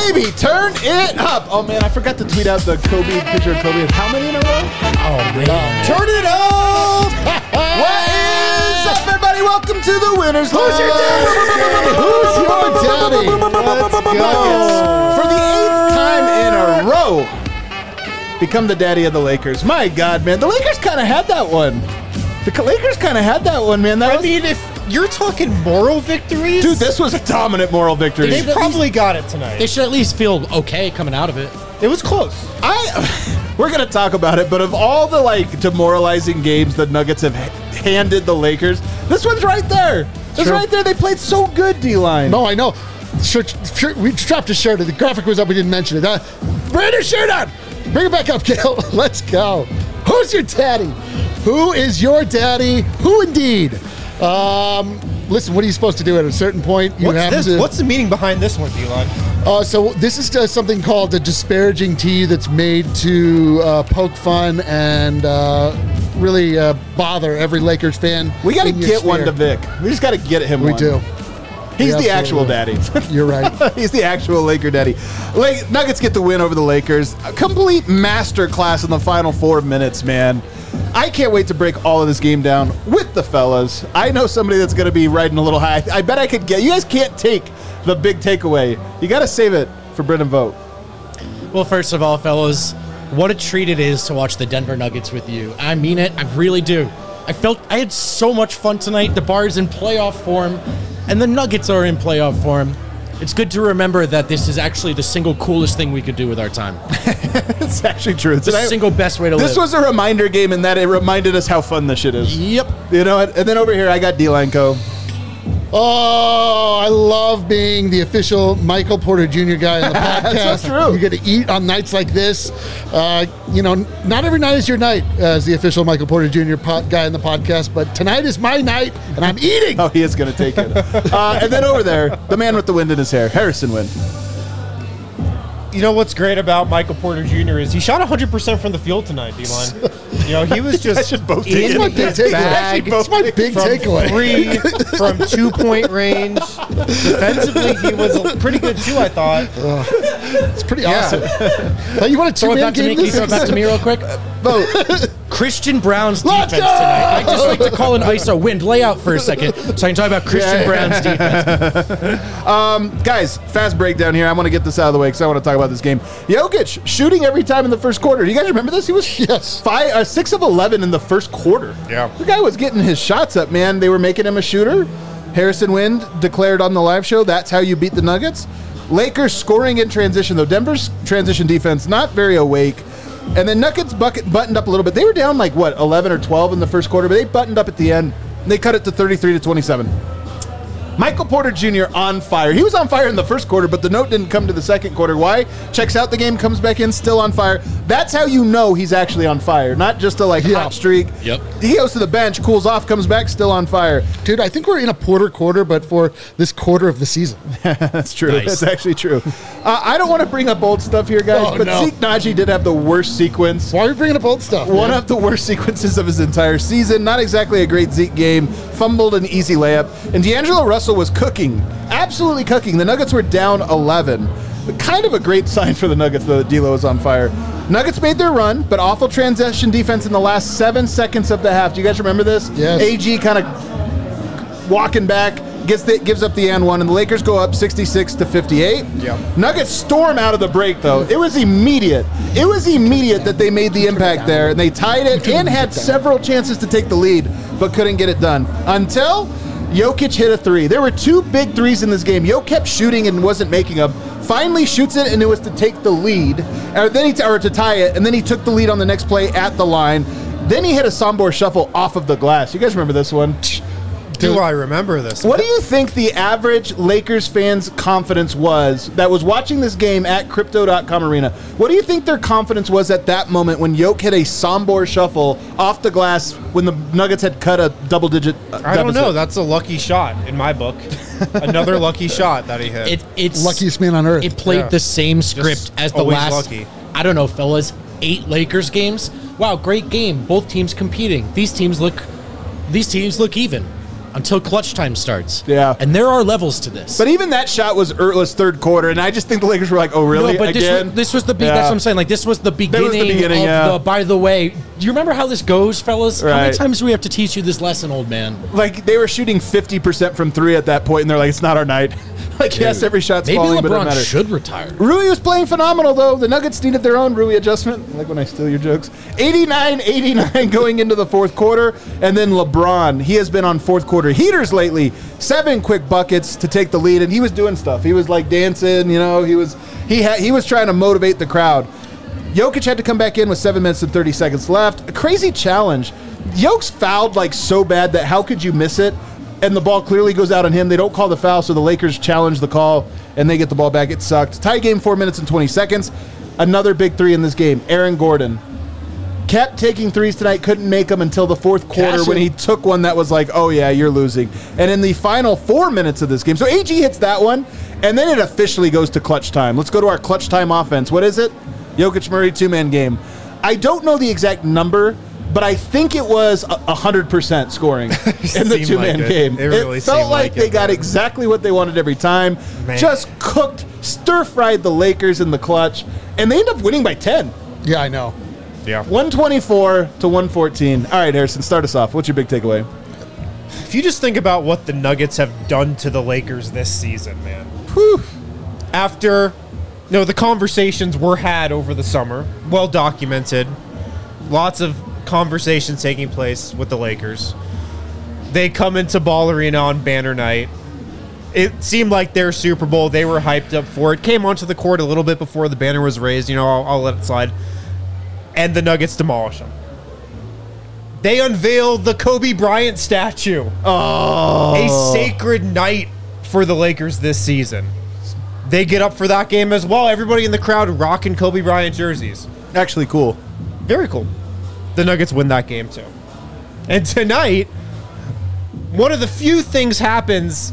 baby, turn it up. Oh, man, I forgot to tweet out the picture of Kobe. How many in a row? Oh, man. Turn it up. What is up, everybody? Welcome to the Winners Line. Who's your daddy? Who's your daddy? Let's go. For the 8th time in a row, become the daddy of the Lakers. My God, man. The Lakers kind of had that one. Man. I mean, if you're talking moral victories, Dude, this was a dominant moral victory. they probably got it tonight. They should at least feel okay coming out of it. It was close. We're going to talk about it, but of all the demoralizing games the Nuggets have handed the Lakers, this one's right there. It's right there. They played so good, D-line. No, I know. Shirt, we strapped a shirt. The graphic was up. We didn't mention it. Bring your shirt on. Bring it back up, Gil. Let's go. Who's your daddy? Who is your daddy? Who indeed? Listen, what are you supposed to do at a certain point? What's the meaning behind this one, D-Line? So this is something called a disparaging tea that's made to poke fun and really bother every Lakers fan. We got to get one to Vic. We just got to get him one. We do. He's the actual daddy. You're right. He's the actual Laker daddy. Nuggets get the win over the Lakers. A complete masterclass in the final 4 minutes, man. I can't wait to break all of this game down with the fellas. I know somebody that's going to be riding a little high. I bet I could get. You guys can't take the big takeaway. You got to save it for Brendan Vogt. Well, first of all, fellas, what a treat it is to watch the Denver Nuggets with you. I mean it. I really do. I had so much fun tonight. The Bar's in playoff form, and the Nuggets are in playoff form. It's good to remember that this is actually the single coolest thing we could do with our time. It's actually true. It's the single best way to live. This was a reminder game in that it reminded us how fun this shit is. Yep. You know what? And then over here, I got D-Line Co. Oh, I love being the official Michael Porter Jr. guy on the podcast. That's so true. You get to eat on nights like this. Not every night is your night as the official Michael Porter Jr. guy on the podcast, but tonight is my night, and I'm eating. Oh, he is going to take it. And then over there, the man with the wind in his hair, Harrison Wind. You know what's great about Michael Porter Jr. is he shot 100% from the field tonight, D-Line. He was just in It's my big his bag. It's my big takeaway. From 2-point range. Defensively, he was pretty good too, I thought. It's pretty awesome. Now, you want to Throw it two-man back to me. game Can you this? throw it back to me real quick? Vote. Christian Brown's Let's defense go! tonight. I just like to call an ISO. Wind, lay out for a second so I can talk about Christian Brown's defense. Guys, fast breakdown here. I want to get this out of the way because I want to talk about this game. Jokic shooting every time in the first quarter. Do you guys remember this? He was 6 of 11 in the first quarter. Yeah. The guy was getting his shots up, man. They were making him a shooter. Harrison Wind declared on the live show, that's how you beat the Nuggets. Lakers scoring in transition, though. Denver's transition defense not very awake. And then Nuggets buttoned up a little bit. They were down 11 or 12 in the first quarter, but they buttoned up at the end. They cut it to 33-27. Michael Porter Jr. on fire. He was on fire in the first quarter, but the note didn't come to the second quarter. Why? Checks out the game, comes back in, still on fire. That's how you know he's actually on fire, not just a hot streak. Yep. He goes to the bench, cools off, comes back, still on fire. Dude, I think we're in a Porter quarter, but for this quarter of the season. That's true. Nice. That's actually true. I don't want to bring up old stuff here, guys, but no. Zeke Naji did have the worst sequence. Why are we bringing up old stuff? One man? of the worst sequences of his entire season. Not exactly a great Zeke game. Fumbled an easy layup. And D'Angelo Russell was cooking. Absolutely cooking. The Nuggets were down 11. Kind of a great sign for the Nuggets, though, that D'Lo was on fire. Nuggets made their run, but awful transition defense in the last 7 seconds of the half. Do you guys remember this? Yes. AG kind of walking back, gives up the and one, and the Lakers go up 66-58. Yep. Nuggets storm out of the break, though. It was immediate. It was immediate that they made the impact there, and they tied it and had several chances to take the lead, but couldn't get it done. Until Jokic hit a three. There were 2 big threes in this game. Jokic kept shooting and wasn't making them. Finally shoots it, and it was to take the lead, or to tie it, and then he took the lead on the next play at the line. Then he hit a Sombor shuffle off of the glass. You guys remember this one? Do I remember this? What do you think the average Lakers fan's confidence was that was watching this game at Crypto.com Arena? What do you think their confidence was at that moment when Jokic hit a Sombor shuffle off the glass when the Nuggets had cut a double-digit deficit? I don't know. That's a lucky shot in my book. Another lucky shot that he hit. It's luckiest man on earth. It played the same script as the always last, lucky. I don't know, fellas, 8 Lakers games. Wow, great game. Both teams competing. These teams look even. until clutch time starts. Yeah. And there are levels to this. But even that shot was Ertla's third quarter, and I just think the Lakers were like, "Oh, really?" No, but Again? this was the Yeah. that's what I'm saying. Like, this was the beginning, beginning, of the, by the way, do you remember how this goes, fellas? How many Right. times do we have to teach you this lesson, old man? Like, they were shooting 50% from three at that point, and they're like, "It's not our night." Like, yes, every shot's Maybe falling, but it doesn't LeBron matter. should retire. Rui was playing phenomenal, though. The Nuggets needed their own Rui adjustment. Like when I steal your jokes. 89-89 going into the fourth quarter. And then LeBron, he has been on fourth quarter heaters lately. 7 quick buckets to take the lead, and he was doing stuff. He was like dancing, you know. He was trying to motivate the crowd. Jokic had to come back in with 7 minutes and 30 seconds left. A crazy challenge. Jokic's fouled like so bad that how could you miss it? And the ball clearly goes out on him. They don't call the foul, so the Lakers challenge the call, and they get the ball back. It sucked. Tie game, 4 minutes and 20 seconds. Another big three in this game. Aaron Gordon kept taking threes tonight, couldn't make them until the fourth quarter when he took one that was like, oh, yeah, you're losing. And in the final 4 minutes of this game, so AG hits that one, and then it officially goes to clutch time. Let's go to our clutch time offense. What is it? Jokic Murray 2-man game. I don't know the exact number, but I think it was 100% scoring in the two-man game. It really felt seemed like they got man. exactly what they wanted every time. Man. Just cooked, stir-fried the Lakers in the clutch, and they end up winning by 10. Yeah, I know. Yeah. 124 to 114. All right, Harrison, start us off. What's your big takeaway? If you just think about what the Nuggets have done to the Lakers this season, man. Whew. After, the conversations were had over the summer, well documented, lots of conversations taking place with the Lakers. They come into Ball Arena on banner night. It seemed like their Super Bowl. They were hyped up for it. Came onto the court a little bit before the banner was raised. I'll let it slide. And the Nuggets demolish them. They unveiled the Kobe Bryant statue. Oh. A sacred night for the Lakers this season. They get up for that game as well. Everybody in the crowd rocking Kobe Bryant jerseys. Actually cool. Very cool. The Nuggets win that game too. And tonight, one of the few things that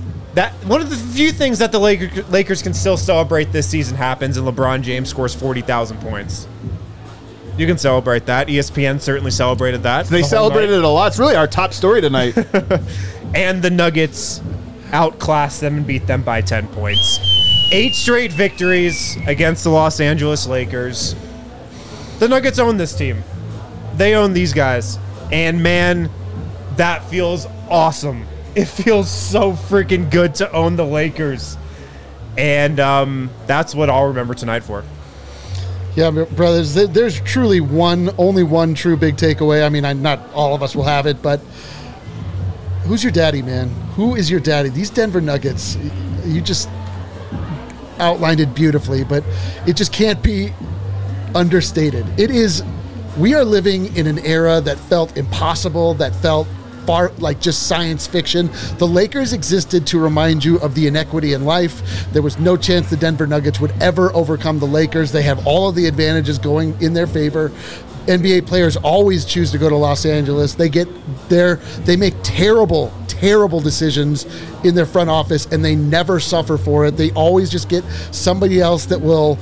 the Lakers can still celebrate this season happens, and LeBron James scores 40,000 points. You can celebrate that. ESPN certainly celebrated that. They the whole celebrated night. it a lot. It's really our top story tonight. And the Nuggets outclassed them and beat them by 10 points. 8 straight victories against the Los Angeles Lakers. The Nuggets own this team. They own these guys. And man, that feels awesome. It feels so freaking good to own the Lakers. And that's what I'll remember tonight for. Yeah, brothers, there's truly only one true big takeaway. I mean, not all of us will have it, but who's your daddy, man? Who is your daddy? These Denver Nuggets, you just outlined it beautifully, but it just can't be understated. We are living in an era that felt impossible, that felt far like just science fiction. The Lakers existed to remind you of the inequity in life. There was no chance the Denver Nuggets would ever overcome the Lakers. They have all of the advantages going in their favor. NBA players always choose to go to Los Angeles. They get there, they make terrible decisions in their front office, and they never suffer for it. They always just get somebody else that will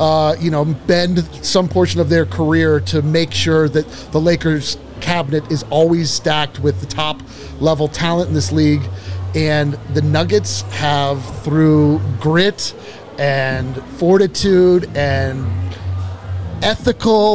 bend some portion of their career to make sure that the Lakers cabinet is always stacked with the top level talent in this league. And the Nuggets have, through grit and fortitude and ethical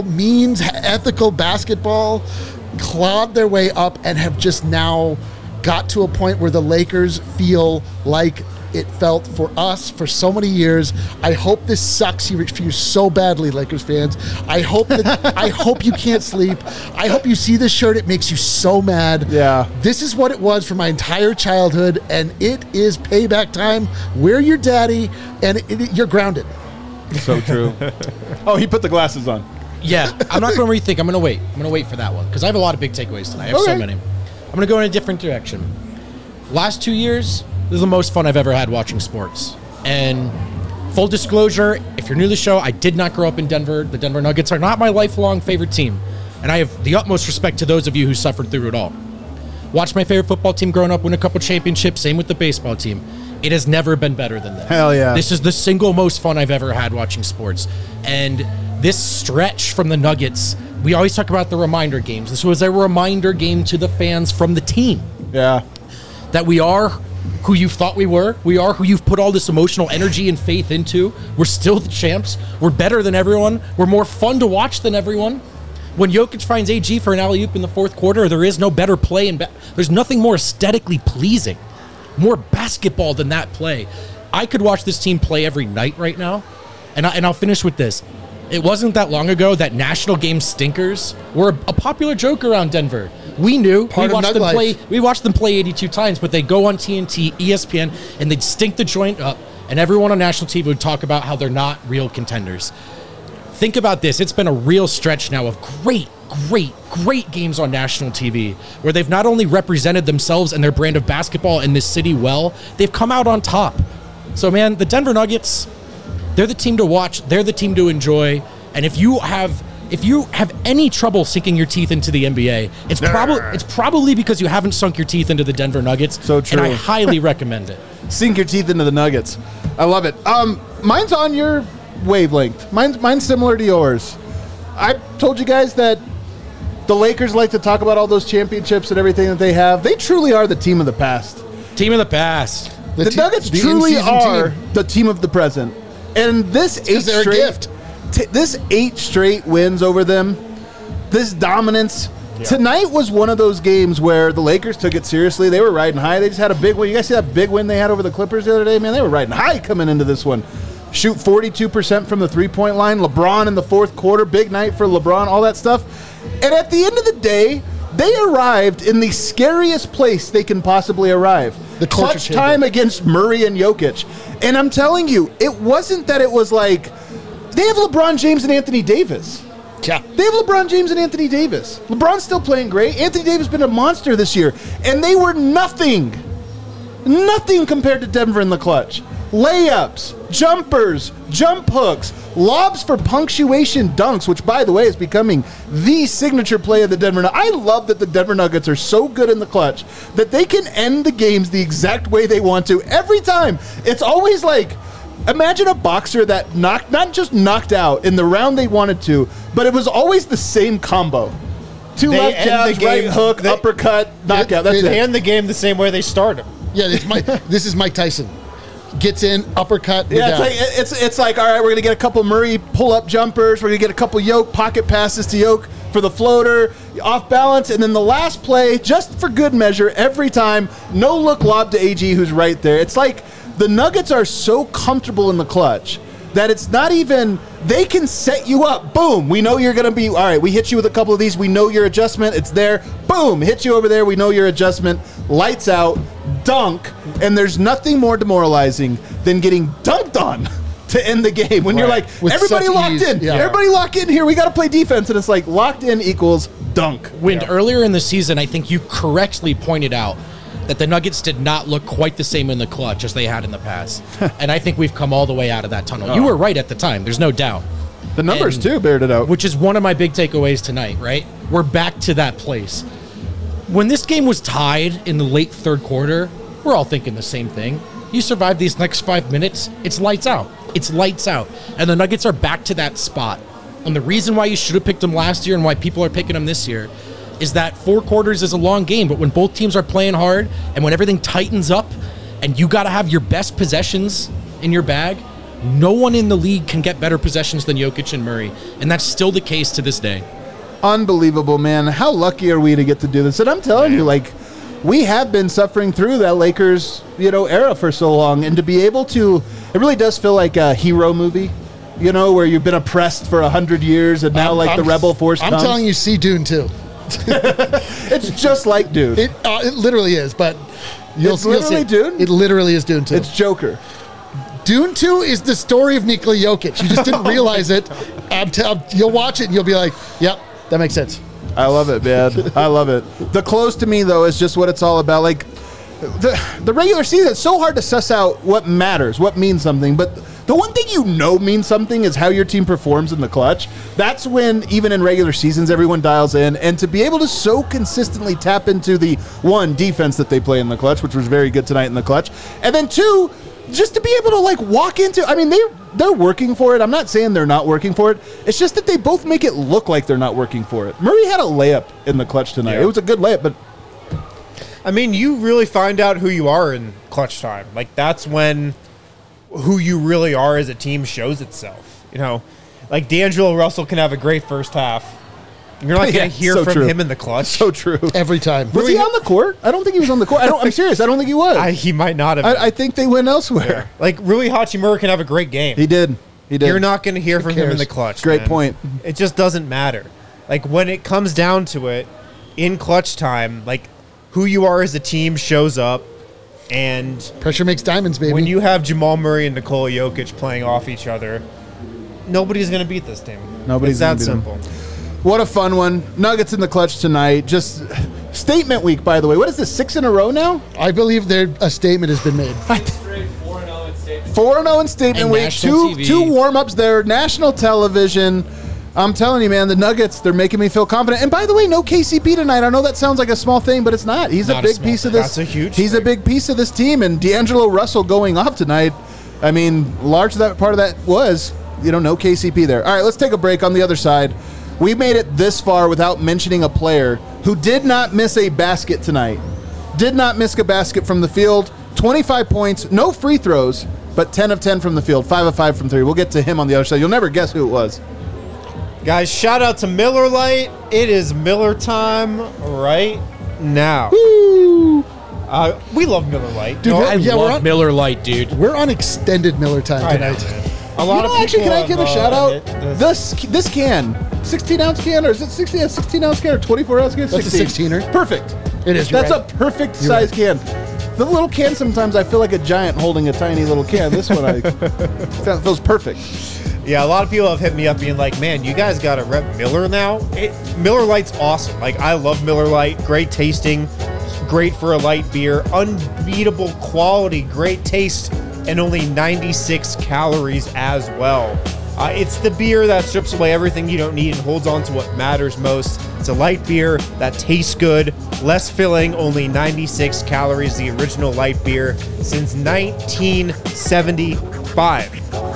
basketball, clawed their way up and have just now got to a point where the Lakers feel like it felt for us for so many years. I hope this sucks for you so badly, Lakers fans. I hope you can't sleep. I hope you see this shirt. It makes you so mad. Yeah. This is what it was for my entire childhood, and it is payback time. We're your daddy, and you're grounded. So true. Oh, he put the glasses on. Yeah, I'm not going to rethink. I'm going to wait. I'm going to wait for that one because I have a lot of big takeaways tonight. I have so many. I'm going to go in a different direction. Last 2 years, this is the most fun I've ever had watching sports. And full disclosure, if you're new to the show, I did not grow up in Denver. The Denver Nuggets are not my lifelong favorite team. And I have the utmost respect to those of you who suffered through it all. Watched my favorite football team growing up win a couple championships. Same with the baseball team. It has never been better than this. Hell yeah. This is the single most fun I've ever had watching sports. And this stretch from the Nuggets, we always talk about the reminder games. This was a reminder game to the fans from the team. Yeah. that we are who you thought we were. We are who you've put all this emotional energy and faith into. We're still the champs. We're better than everyone. We're more fun to watch than everyone. When Jokic finds AG for an alley-oop in the fourth quarter, there is no better play. There's nothing more aesthetically pleasing, more basketball than that play. I could watch this team play every night right now. And I'll finish with this. It wasn't that long ago that national game stinkers were a popular joke around Denver. We knew. We watched them play 82 times, but they'd go on TNT, ESPN, and they'd stink the joint up, and everyone on national TV would talk about how they're not real contenders. Think about this. It's been a real stretch now of great games on national TV where they've not only represented themselves and their brand of basketball in this city well, they've come out on top. So, man, the Denver Nuggets, they're the team to watch. They're the team to enjoy. And if you have any trouble sinking your teeth into the NBA, it's probably because you haven't sunk your teeth into the Denver Nuggets. So true. And I highly recommend it. Sink your teeth into the Nuggets. I love it. Mine's on your wavelength. Mine's similar to yours. I told you guys that the Lakers like to talk about all those championships and everything that they have. They truly are the team of the past. Team of the past. The Nuggets truly are the team of the present. And this this 8 straight wins over them, this dominance. Yeah. Tonight was one of those games where the Lakers took it seriously. They were riding high. They just had a big win. You guys see that big win they had over the Clippers the other day? Man, they were riding high coming into this one. Shoot 42% from the three-point line. LeBron in the fourth quarter. Big night for LeBron, all that stuff. And at the end of the day, they arrived in the scariest place they can possibly arrive. The clutch time against Murray and Jokic. And I'm telling you, it wasn't that it was like, they have LeBron James and Anthony Davis. Yeah. They have LeBron James and Anthony Davis. LeBron's still playing great. Anthony Davis has been a monster this year. And they were nothing compared to Denver in the clutch. Layups, jumpers, jump hooks, lobs for punctuation dunks, which, by the way, is becoming the signature play of the Denver Nuggets. I love that the Denver Nuggets are so good in the clutch that they can end the games the exact way they want to every time. It's always like, imagine a boxer that not just knocked out in the round they wanted to, but it was always the same combo. Two left jabs, right hook, uppercut, knockout. That's it. They end the game the same way they started. Yeah, this is Mike Tyson. Gets in, uppercut. Yeah, it's like, all right, we're going to get a couple Murray pull-up jumpers. We're going to get a couple Yoke pocket passes to Yoke for the floater, off balance, and then the last play, just for good measure, every time, no-look lob to AG, who's right there. It's like the Nuggets are so comfortable in the clutch that it's not even, they can set you up. Boom, we know you're going to be, all right, we hit you with a couple of these. We know your adjustment. It's there. Boom, hit you over there. We know your adjustment. Lights out, dunk, and there's nothing more demoralizing than getting dunked on to end the game. When you're like, with everybody locked ease. in. Yeah. Everybody lock in here. We got to play defense. And it's like locked in equals dunk. Wind, earlier in the season, I think you correctly pointed out that the Nuggets did not look quite the same in the clutch as they had in the past. And I think we've come all the way out of that tunnel. You were right at the time. There's no doubt. The numbers, too, bared it out. Which is one of my big takeaways tonight, right? We're back to that place. When this game was tied in the late third quarter, we're all thinking the same thing. You survive these next 5 minutes, it's lights out. It's lights out. And the Nuggets are back to that spot. And the reason why you should have picked them last year and why people are picking them this year is that 4 quarters is a long game, but when both teams are playing hard and when everything tightens up and you got to have your best possessions in your bag, no one in the league can get better possessions than Jokic and Murray. And that's still the case to this day. Unbelievable, man. How lucky are we to get to do this? And I'm telling you, like, we have been suffering through that Lakers, era for so long. And to be able to, it really does feel like a hero movie, where you've been oppressed for 100 years and now the rebel force comes. I'm telling you, see Dune 2. It's just like Dune. It literally is, but you'll see. Dune? It literally is Dune 2. It's Joker. Dune 2 is the story of Nikola Jokic. You just didn't realize it. You'll watch it and you'll be like, yep, that makes sense. I love it, man. I love it. The close to me, though, is just what it's all about. Like, the regular season, it's so hard to suss out what matters, what means something. But the one thing means something is how your team performs in the clutch. That's when, even in regular seasons, everyone dials in. And to be able to so consistently tap into the, 1, defense that they play in the clutch, which was very good tonight in the clutch. And then 2, just to be able to, walk into, I mean, they're working for it. I'm not saying they're not working for it. It's just that they both make it look like they're not working for it. Murray had a layup in the clutch tonight. Yeah. It was a good layup, but I mean, you really find out who you are in clutch time. Like, that's when who you really are as a team shows itself. You know, like D'Angelo Russell can have a great first half. You're not going to hear so from true. him in the clutch. So true. Every time. Was he on the court? I don't think he was on the court. I'm serious. I don't think he was. He might not have. I think they went elsewhere. Like, Rui Hachimura can have a great game. He did. You're not going to hear from him in the clutch. Great man. point. It just doesn't matter. Like, when it comes down to it, in clutch time, like, who you are as a team shows up. And Pressure makes diamonds, baby. when you have Jamal Murray and Nikola Jokic playing off each other, nobody's going to beat this team. Nobody's It's that gonna beat simple. What a fun one. Nuggets in the clutch tonight. Just statement week, by the way. What is this, 6 in a row now? I believe a statement has been made. 4-0 in statement And week. national TV. Two warm-ups there. National television. I'm telling you, man, the Nuggets, they're making me feel confident. And by the way, no KCP tonight. I know that sounds like a small thing, but it's not. He's Not a a big small piece of thing. this. That's a huge He's a thing. big piece of this team. And D'Angelo Russell going off tonight, I mean, large that part of that was, no KCP there. All right, let's take a break on the other side. We made it this far without mentioning a player who did not miss a basket tonight. Did not miss a basket from the field. 25 points, no free throws, but 10 of 10 from the field, 5 of 5 from 3. We'll get to him on the other side. You'll never guess who it was. Guys, shout out to Miller Lite. It is Miller time right now. We love Miller Lite. Dude, No, I Yeah, we're love on- Miller Lite, dude. We're on extended Miller time I know, tonight. man. A lot of people Actually, can I have, give a shout out? hit this. This can, 16-ounce can, or is it 16-ounce can or 24-ounce can? That's a 16er. Perfect. It is, That's you're a right. perfect size can. The little can, sometimes I feel like a giant holding a tiny little can. This one, that feels perfect. Yeah, a lot of people have hit me up being like, man, you guys got to rep Miller now. Miller Lite's awesome. Like, I love Miller Lite. Great tasting. Great for a light beer. Unbeatable quality. Great taste. And only 96 calories as well. It's the beer that strips away everything you don't need and holds on to what matters most. It's a light beer that tastes good, less filling, only 96 calories, the original light beer since 1975.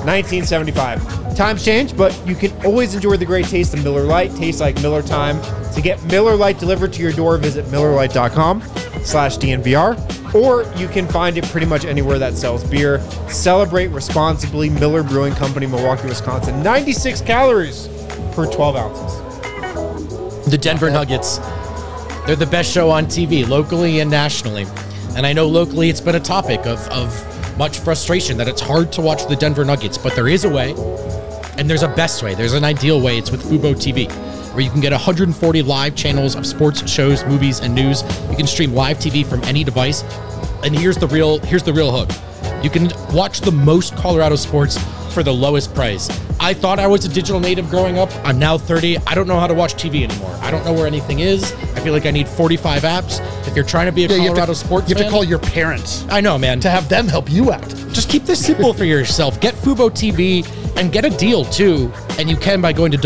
1975. Times change, but you can always enjoy the great taste of Miller Lite. Tastes like Miller time. To get Miller Lite delivered to your door, visit MillerLite.com/DNVR. Or you can find it pretty much anywhere that sells beer. Celebrate responsibly. Miller Brewing Company, Milwaukee, Wisconsin. 96 calories per 12 ounces. The Denver Nuggets, they're the best show on TV, locally and nationally. And I know locally it's been a topic of much frustration that it's hard to watch the Denver Nuggets, but there is a way, and there's a best way. There's an ideal way. It's with Fubo TV, where you can get 140 live channels of sports, shows, movies, and news. You can stream live TV from any device. And here's the real hook. You can watch the most Colorado sports for the lowest price. I thought I was a digital native growing up. I'm now 30. I don't know how to watch TV anymore. I don't know where anything is. I feel like I need 45 apps. If you're trying to be a Colorado sports You have fan, to call your parents I know, man. to have them help you out. Just keep this simple for yourself. Get Fubo TV and get a deal too. And you can by going to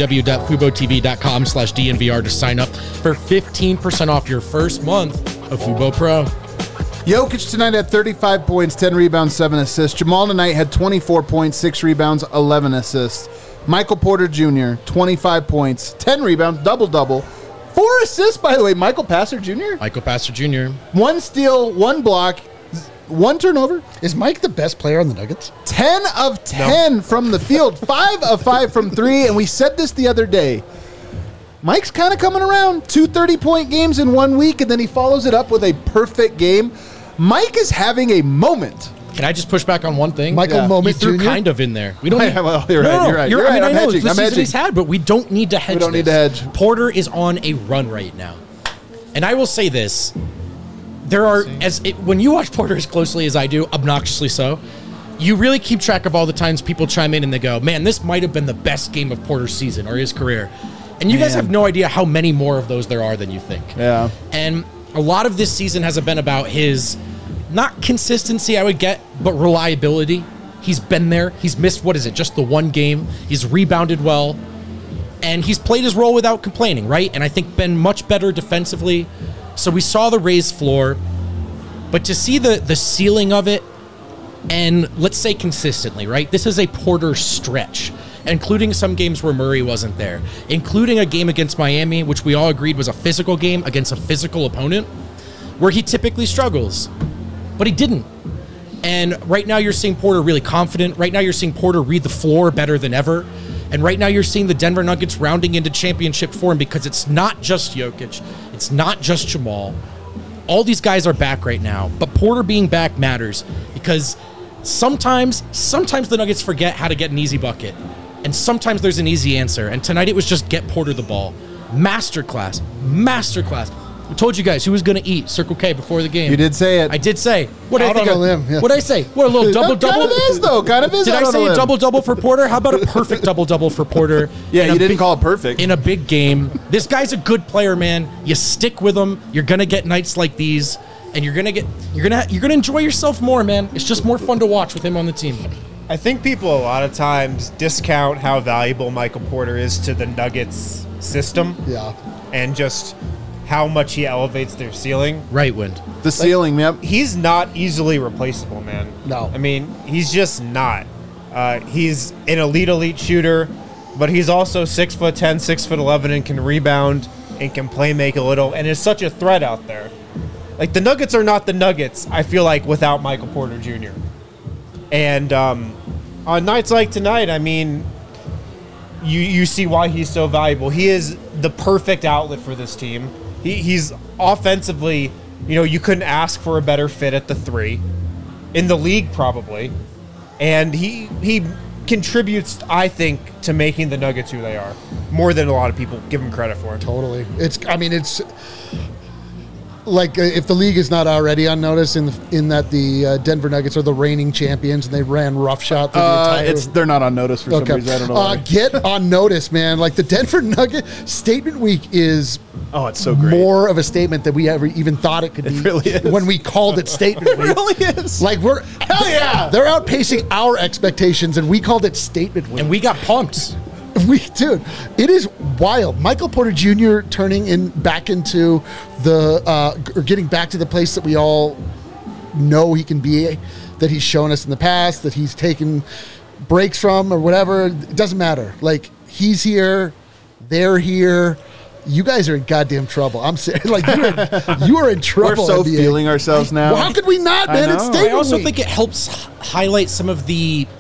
www.fubotv.com/DNVR to sign up for 15% off your first month of Fubo Pro. Jokic tonight had 35 points, 10 rebounds, 7 assists. Jamal tonight had 24 points, 6 rebounds, 11 assists. Michael Porter Jr., 25 points, 10 rebounds, double-double. 4 assists, by the way. Michael Passer Jr.? Michael Passer Jr. 1 steal, 1 block, 1 turnover. Is Mike the best player on the Nuggets? 10 of 10 from the field, 5 of 5 from 3, and we said this the other day. Mike's kind of coming around. 2 30-point games in 1 week, and then he follows it up with a perfect game. Mike is having a moment. Can I just push back on one thing? Michael Yeah. You Moment threw Jr.? kind of in there. We don't. Well, you're right, you're right. I mean, I'm I know hedging, it's the I'm season hedging. he's had, but we don't need to hedge. We don't need to this. hedge. Porter is on a run right now, and I will say this: there are when you watch Porter as closely as I do, obnoxiously so. You really keep track of all the times people chime in and they go, "Man, this might have been the best game of Porter's season or his career," and you guys Man. have no idea how many more of those there are than you think. Yeah. And a lot of this season has been about his, not consistency, I would get, but reliability. He's been there. He's missed, just the 1 game. He's rebounded well. And he's played his role without complaining, right? And I think been much better defensively. So we saw the raised floor. But to see the ceiling of it, and let's say consistently, right? This is a Porter stretch, including some games where Murray wasn't there, including a game against Miami, which we all agreed was a physical game against a physical opponent. where he typically struggles. But he didn't. And right now you're seeing Porter really confident. Right now you're seeing Porter read the floor better than ever. And right now you're seeing the Denver Nuggets rounding into championship form because it's not just Jokic. It's not just Jamal. All these guys are back right now. But Porter being back matters because sometimes the Nuggets forget how to get an easy bucket. And sometimes there's an easy answer. And tonight it was just get Porter the ball. Masterclass. I told you guys who was going to eat Circle K before the game. You did say it. I did say. What did I Out think? on a limb, yeah. What did I say? What, a little double-double? Kind of is, though. Kind of is. Did out I on say limb. a double-double for Porter? How about a perfect double-double for Porter? Yeah, in a you didn't big- call it perfect. in a big game. This guy's a good player, man. You stick with him. You're gonna get nights like these, and you're gonna enjoy yourself more, man. It's just more fun to watch with him on the team. I think people a lot of times discount how valuable Michael Porter is to the Nuggets system. Yeah. And just how much he elevates their ceiling. Right, Wind. The ceiling, yep. He's not easily replaceable, man. No. I mean, he's just not. He's an elite shooter, but he's also 6'10", 6'11", and can rebound and can play make a little, and is such a threat out there. Like, the Nuggets are not the Nuggets, I feel like, without Michael Porter Jr. And on nights like tonight, I mean, you see why he's so valuable. He is the perfect outlet for this team. He's offensively, you couldn't ask for a better fit at the 3 in the league probably, and he contributes, I think, to making the Nuggets who they are more than a lot of people give him credit for. Totally. It's like if the league is not already on notice in that the Denver Nuggets are the reigning champions and they ran roughshod through the entire. They're not on notice for some reason. I don't know why. Get on notice, man. Like the Denver Nugget Statement Week is It's so great. more of a statement than we ever even thought it could be. It really is. When we called it Statement Week. It really is. Like Hell yeah. They're outpacing our expectations, and we called it Statement Week. And we got pumped. Dude, it is wild. Michael Porter Jr. turning back into or getting back to the place that we all know he can be, that he's shown us in the past, that he's taken breaks from or whatever. It doesn't matter. Like, he's here, they're here. You guys are in goddamn trouble. I'm serious. Like, you are in trouble. We're so NBA. feeling ourselves now. Well, how could we not, I man? know. It's I Statement I also Week. think it helps highlight some of the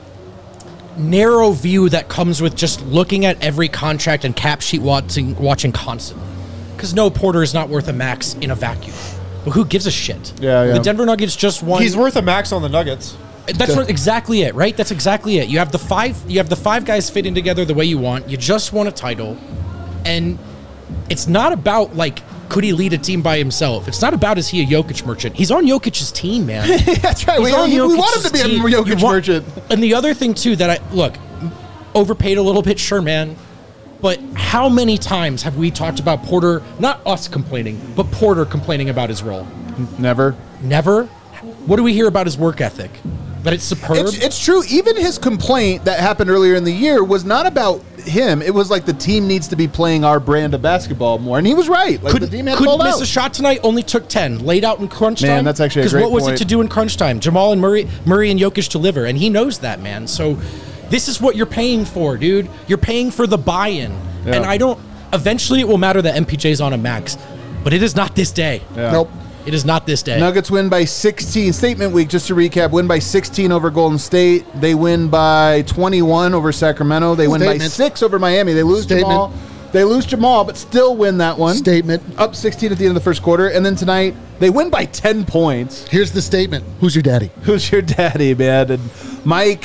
narrow view that comes with just looking at every contract and cap sheet watching constantly. Because no, Porter is not worth a max in a vacuum. But who gives a shit? Yeah. The Denver Nuggets just won. He's worth a max on the Nuggets. That's exactly it, right? That's exactly it. You have the five guys fitting together the way you want. You just won a title, and it's not about like could he lead a team by himself. It's not about is he a Jokic merchant. He's on Jokic's team, man. That's right. We He's on want him to be a Jokic's team. Jokic merchant. And the other thing too that overpaid a little bit, sure, man. But how many times have we talked about Porter? Not us complaining, but Porter complaining about his role. Never. Never. What do we hear about his work ethic? That it's superb. It's true. Even his complaint that happened earlier in the year was not about him. It was like the team needs to be playing our brand of basketball more, and he was right. Like the team had couldn't pulled miss out. a shot tonight. Only took 10. Laid out in crunch time. Man, that's actually a great what was point. it to do in crunch time? Jamal and Murray and Jokic deliver, and he knows that, man. So this is what you're paying for, dude. You're paying for the buy-in, Yeah. and I don't. Eventually, it will matter that MPJ's on a max, but it is not this day. Yeah. Nope. It is not this day. Nuggets win by 16. Statement week, just to recap, win by 16 over Golden State. They win by 21 over Sacramento. They win by Statement. 6 over Miami. They lose Statement. Jamal. They lose Jamal, but still win that one. Statement. Up 16 at the end of the first quarter. And then tonight, they win by 10 points. Here's the statement. Who's your daddy? Who's your daddy, man? And Mike,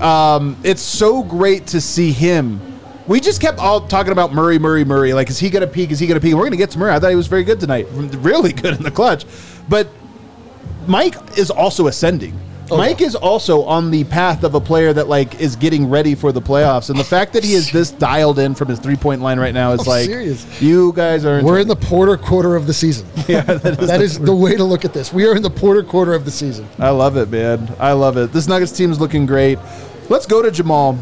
it's so great to see him. We just kept all talking about Murray. Like, is he going to peak? Is he going to peak? We're going to get to Murray. I thought he was very good tonight. Really good in the clutch. But Mike is also ascending. Mike is also on the path of a player that, like, is getting ready for the playoffs. And the fact that he is this dialed in from his three-point line right now is I'm like, serious. You guys are... We're in the Porter quarter of the season. Yeah, that is the way to look at this. We are in the Porter quarter of the season. I love it, man. I love it. This Nuggets team is looking great. Let's go to Jamal.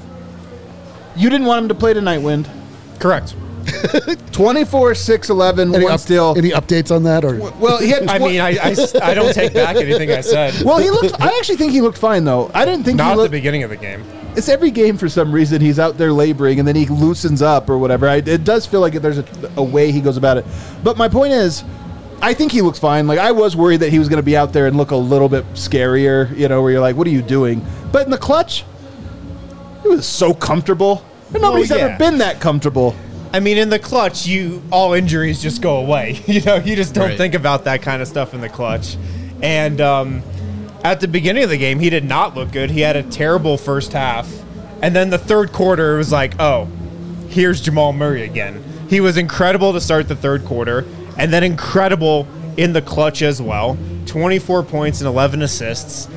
You didn't want him to play tonight, Wind. Correct. 24, 6, 11, one steal. Any updates on that? Or Well, he had. I mean, I don't take back anything I said. Well, he looked. I actually think he looked fine, though. I didn't think Not he at the looked. beginning of the game. It's every game for some reason he's out there laboring and then he loosens up or whatever. It does feel like there's a way he goes about it. But my point is, I think he looks fine. Like, I was worried that he was going to be out there and look a little bit scarier, where you're like, what are you doing? But in the clutch, it was so comfortable. And nobody's ever been that comfortable. I mean, in the clutch, all injuries just go away. You just don't think about that kind of stuff in the clutch. And at the beginning of the game, he did not look good. He had a terrible first half. And then the third quarter, it was like, oh, here's Jamal Murray again. He was incredible to start the third quarter, and then incredible in the clutch as well. 24 points and 11 assists.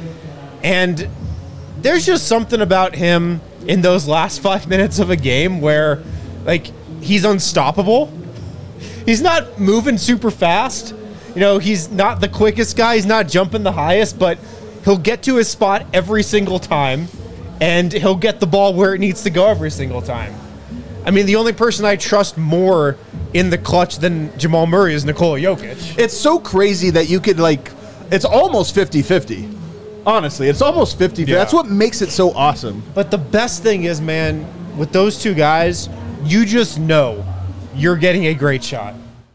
And there's just something about him in those last 5 minutes of a game where, like, he's unstoppable. He's not moving super fast. He's not the quickest guy. He's not jumping the highest, but he'll get to his spot every single time, and he'll get the ball where it needs to go every single time. I mean, the only person I trust more in the clutch than Jamal Murray is Nikola Jokic. It's so crazy that you could, it's almost 50-50. Honestly, it's almost 50-50. Yeah. That's what makes it so awesome. But the best thing is, man, with those two guys, you just know you're getting a great shot.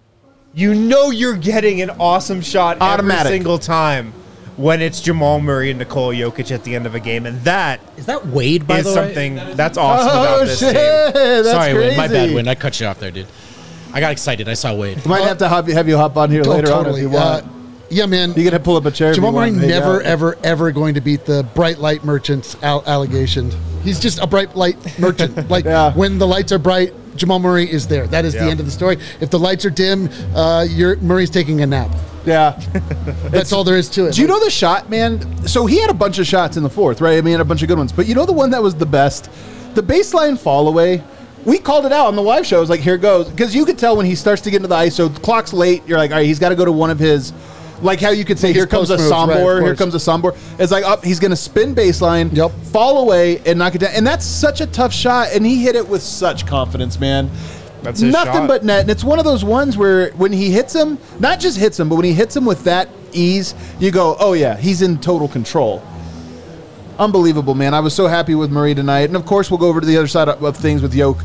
You know you're getting an awesome shot Automatic. every single time when it's Jamal Murray and Nikola Jokic at the end of a game. And that Is that Wade, by is the way? something that's awesome about this shit. team. That's Sorry, crazy. Wade. My bad, Wade. I cut you off there, dude. I got excited. I saw Wade. We might have to have you hop on here later on if you want. Yeah, man. You can pull up a chair. Jamal Murray if you want. never, Yeah. ever, ever going to beat the bright light merchant's allegation. He's just a bright light merchant. Yeah. When the lights are bright, Jamal Murray is there. That is the end of the story. If the lights are dim, Murray's taking a nap. Yeah. That's all there is to it. Do you know the shot, man? So he had a bunch of shots in the fourth, right? I mean, a bunch of good ones. But you know the one that was the best? The baseline fall away. We called it out on the live show. It was like, here it goes. Because you could tell when he starts to get into the ISO, the clock's late. You're like, all right, he's got to go to one of his, like how you could say, His here comes a post moves, right, Sombor, of here course. comes a Sombor. It's like, up, he's going to spin baseline, Yep. fall away, and knock it down. And that's such a tough shot. And he hit it with such confidence, man. That's his Nothing shot. but net. And it's one of those ones where when he hits him, not just hits him, but when he hits him with that ease, you go, oh, yeah, he's in total control. Unbelievable, man. I was so happy with Murray tonight. And, of course, we'll go over to the other side of things with Yoke.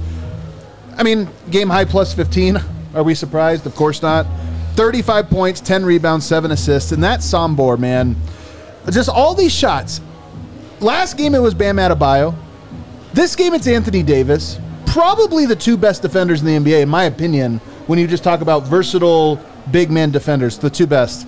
I mean, game high plus 15. Are we surprised? Of course not. 35 points, 10 rebounds, 7 assists. And that Sombor, man, just all these shots. Last game it was Bam Adebayo. This game it's Anthony Davis. Probably the two best defenders in the NBA, in my opinion, when you just talk about versatile big man defenders, the two best.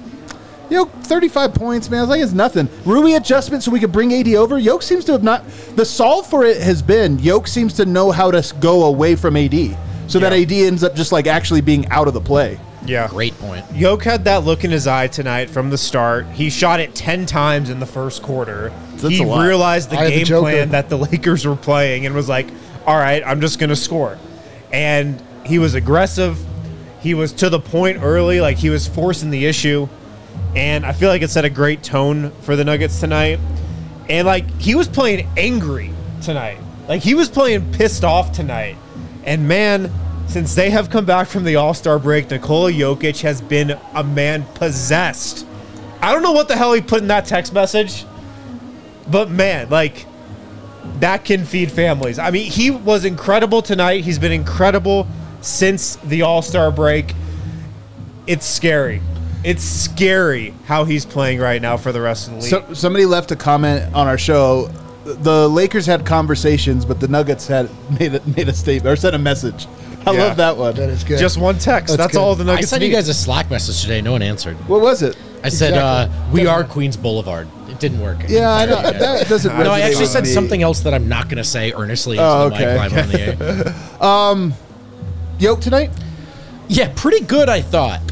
35 points, man. I was like, it's nothing. Rui adjustment so we could bring AD over. Yoke seems to have not. The solve for it has been Yoke seems to know how to go away from AD so that AD ends up just like actually being out of the play. Yeah. Great point. Yoke had that look in his eye tonight from the start. He shot it 10 times in the first quarter. That's He a lot. realized the I had the game Joker. plan that the Lakers were playing and was like, all right, I'm just going to score. And he was aggressive. He was to the point early, like he was forcing the issue. And I feel like it set a great tone for the Nuggets tonight. And, like, he was playing angry tonight. Like, he was playing pissed off tonight. And, man, since they have come back from the All-Star break, Nikola Jokic has been a man possessed. I don't know what the hell he put in that text message. But, man, like, that can feed families. I mean, he was incredible tonight. He's been incredible since the All-Star break. It's scary. It's scary how he's playing right now for the rest of the league. So, somebody left a comment on our show. The Lakers had conversations, but the Nuggets had made a statement or sent a message. I Yeah. love that one. That is good. Just one text. That's good. all the I Nuggets sent need. you guys a Slack message today. No one answered. What was it? I said, Exactly. we Doesn't are matter. Queens Boulevard. It didn't work. Yeah, I know. That doesn't. No, I resonate actually with said me. something else that I'm not going to say earnestly into Oh, the okay. mic live on the air. Yoke tonight. Yeah, pretty good, I thought.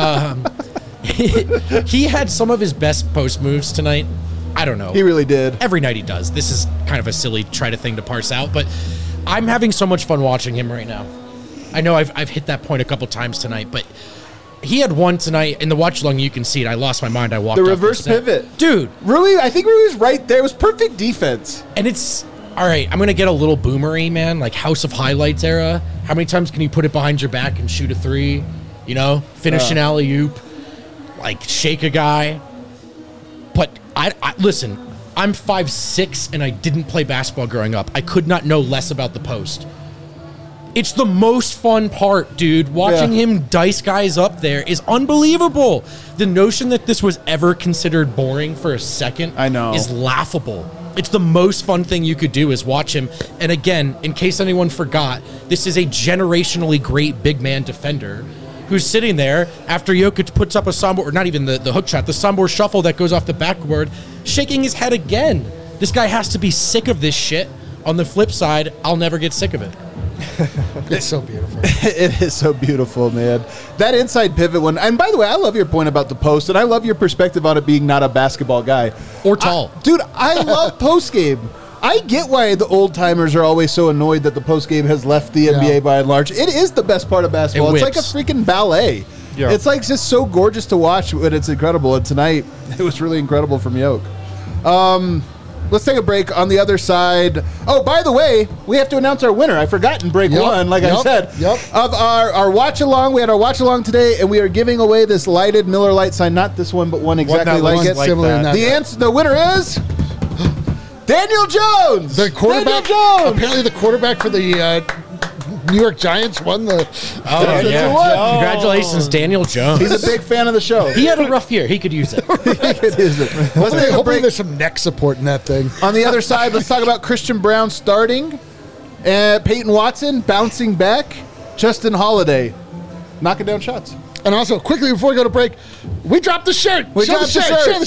He had some of his best post moves tonight. I don't know. He really did. Every night he does. This is kind of a silly thing to parse out, but I'm having so much fun watching him right now. I know I've hit that point a couple times tonight, but he had one tonight in the watch along. You can see it. I lost my mind. I walked The off reverse set. pivot. dude. Rui, I think Rui was right there. It was perfect defense. And it's all right. I'm gonna get a little boomery, man. Like House of Highlights era. How many times can you put it behind your back and shoot a three? You know, finish an alley oop, like shake a guy. But I listen. I'm 5'6" and I didn't play basketball growing up. I could not know less about the post. It's the most fun part, dude. Watching him dice guys up there is unbelievable. The notion that this was ever considered boring for a second is laughable. It's the most fun thing you could do is watch him. And again, in case anyone forgot, this is a generationally great big man defender who's sitting there after Jokic puts up a Sombor, or not even the hook shot, the Sombor shuffle that goes off the backboard, shaking his head again. This guy has to be sick of this shit. On the flip side, I'll never get sick of it. It's so beautiful. It is so beautiful, man. That inside pivot one. And by the way, I love your point about the post, and I love your perspective on it being not a basketball guy. Or tall. Dude, I love post game. I get why the old timers are always so annoyed that the post game has left the NBA by and large. It is the best part of basketball. It's like a freaking ballet. Yeah. It's like just so gorgeous to watch, and it's incredible. And tonight, it was really incredible from Yoke. Let's take a break. On the other side. Oh, by the way, we have to announce our winner. I forgot in break one, like I said. Of our watch along. We had our watch along today, and we are giving away this lighted Miller Lite sign. Not this one, but one exactly like it. Similar that. The winner is Daniel Jones. The quarterback. Apparently, the quarterback for the New York Giants won the. Oh, yeah. Congratulations, Daniel Jones. He's a big fan of the show. He had a rough year. He could use it. Hopefully there's some neck support in that thing. On the other side, let's talk about Christian Brown starting, Peyton Watson bouncing back, Justin Holiday knocking down shots. And also, quickly before we go to break, we dropped the shirt. We dropped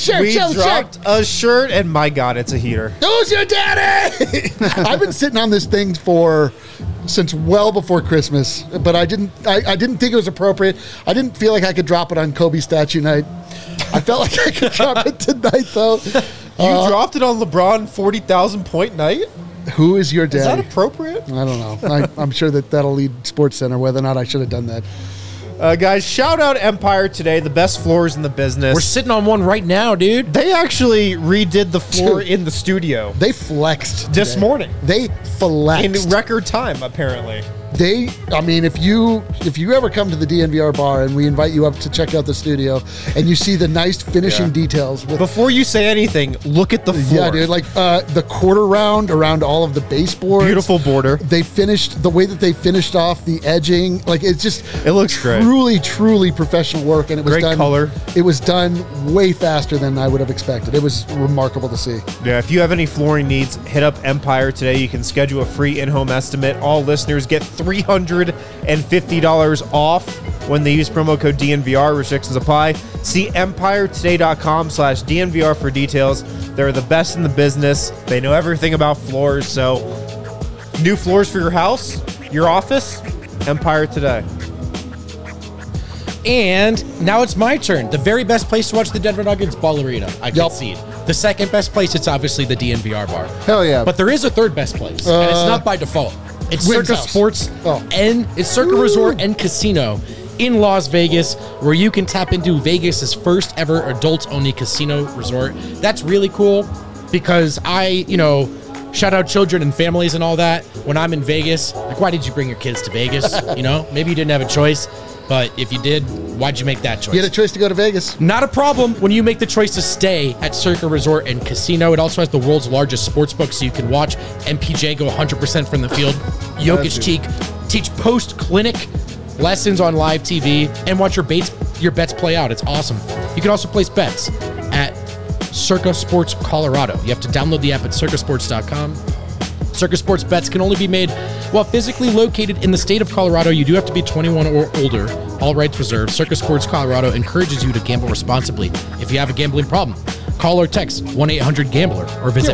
a shirt, and my God, it's a heater. Who's your daddy? I've been sitting on this thing since well before Christmas, but I didn't think it was appropriate. I didn't feel like I could drop it on Kobe statue night. I felt like I could drop it tonight, though. You dropped it on LeBron 40,000 point night? Who is your daddy? Is that appropriate? I don't know. I'm sure that'll lead SportsCenter whether or not I should have done that. Guys, shout out Empire Today, the best floors in the business. We're sitting on one right now, dude. They actually redid the floor in the studio. They flexed this morning. They flexed in record time, apparently. If you ever come to the DNVR bar and we invite you up to check out the studio and you see the nice finishing details. Before you say anything, look at the floor. Yeah, dude, like the quarter round around all of the baseboards. Beautiful border. They finished, the way that they finished off the edging, like it looks truly, truly professional work, and it was great done. Color. It was done way faster than I would have expected. It was remarkable to see. Yeah, if you have any flooring needs, hit up Empire Today. You can schedule a free in-home estimate. All listeners get $350 off when they use promo code DNVR. Restrictions apply. See EmpireToday.com/DNVR for details. They're the best in the business. They know everything about floors. So, new floors for your house, your office, Empire Today. And now it's my turn. The very best place to watch the Denver Nuggets, Ball Arena. I concede. The second best place, it's obviously the DNVR bar. Hell yeah. But there is a third best place, and it's not by default. It's Wynn's Circa house. Sports and it's Circa Resort and Casino in Las Vegas, where you can tap into Vegas's first ever adults-only casino resort. That's really cool because shout out children and families and all that. When I'm in Vegas, like, why did you bring your kids to Vegas? Maybe you didn't have a choice. But if you did, why'd you make that choice? You had a choice to go to Vegas. Not a problem when you make the choice to stay at Circa Resort and Casino. It also has the world's largest sports book, so you can watch MPJ go 100% from the field. Jokic teach post-clinic lessons on live TV and watch your bets play out. It's awesome. You can also place bets at Circa Sports Colorado. You have to download the app at circasports.com. Circa Sports bets can only be made while physically located in the state of Colorado. You do have to be 21 or older. All rights reserved. Circa Sports Colorado encourages you to gamble responsibly. If you have a gambling problem, call or text 1-800-GAMBLER or visit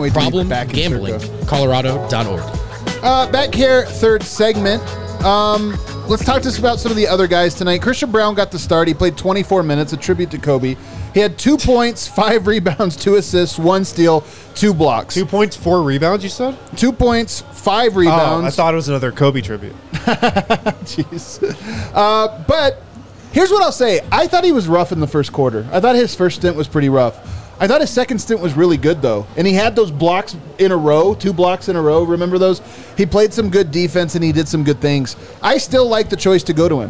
problemgamblingcolorado.org. Back here, third segment. Let's talk to us about some of the other guys tonight. Christian Brown got the start. He played 24 minutes, a tribute to Kobe. He had 2 points, 5 rebounds, 2 assists, 1 steal, 2 blocks. 2 points, 4 rebounds, you said? 2 points, 5 rebounds. Oh, I thought it was another Kobe tribute. Jeez. But here's what I'll say. I thought he was rough in the first quarter. I thought his first stint was pretty rough. I thought his second stint was really good, though. And he had those blocks in a row, 2 blocks in a row. Remember those? He played some good defense, and he did some good things. I still like the choice to go to him.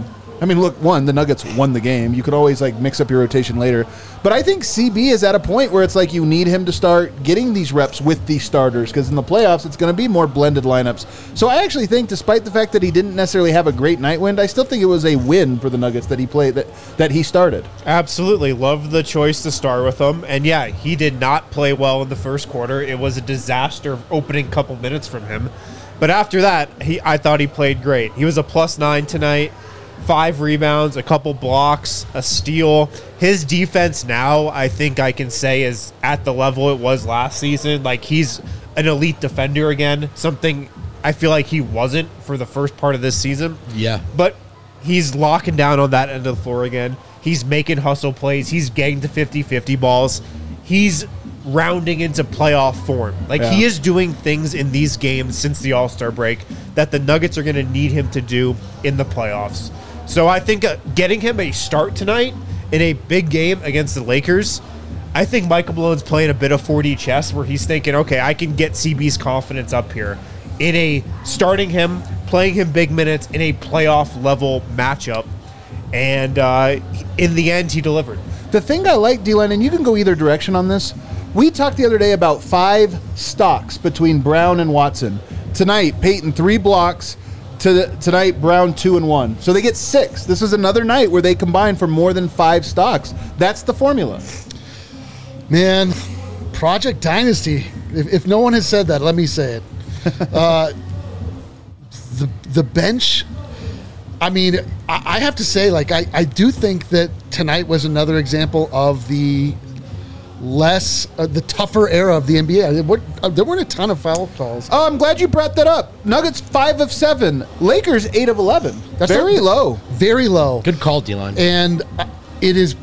I mean, look, the Nuggets won the game. You could always like mix up your rotation later. But I think CB is at a point where it's like you need him to start getting these reps with these starters, because in the playoffs it's going to be more blended lineups. So I actually think, despite the fact that he didn't necessarily have a great night wind, I still think it was a win for the Nuggets that he played, that he started. Absolutely. Love the choice to start with him. And yeah, he did not play well in the first quarter. It was a disaster opening couple minutes from him. But after that, I thought he played great. He was a +9 tonight. 5 rebounds, a couple blocks, a steal. His defense now, I think I can say, is at the level it was last season. Like, he's an elite defender again, something I feel like he wasn't for the first part of this season. Yeah. But he's locking down on that end of the floor again. He's making hustle plays. He's getting to 50-50 balls. He's rounding into playoff form. Like, he is doing things in these games since the All-Star break that the Nuggets are going to need him to do in the playoffs. So I think getting him a start tonight in a big game against the Lakers, I think Michael Malone's playing a bit of 4D chess where he's thinking, okay, I can get CB's confidence up here in starting him, playing him big minutes in a playoff level matchup. And in the end, he delivered. The thing I like, D-Line, and you can go either direction on this, we talked the other day about 5 stocks between Brown and Watson. Tonight, Peyton 3 blocks. Tonight, Brown 2 and 1. So they get 6. This is another night where they combine for more than 5 stocks. That's the formula. Man, Project Dynasty. If no one has said that, let me say it. The bench, I mean, I have to say, like, I do think that tonight was another example of the the tougher era of the NBA. There weren't a ton of foul calls. Oh, I'm glad you brought that up. Nuggets 5 of 7. Lakers 8 of 11. That's very low. Very low. Good call, D-Line. And it is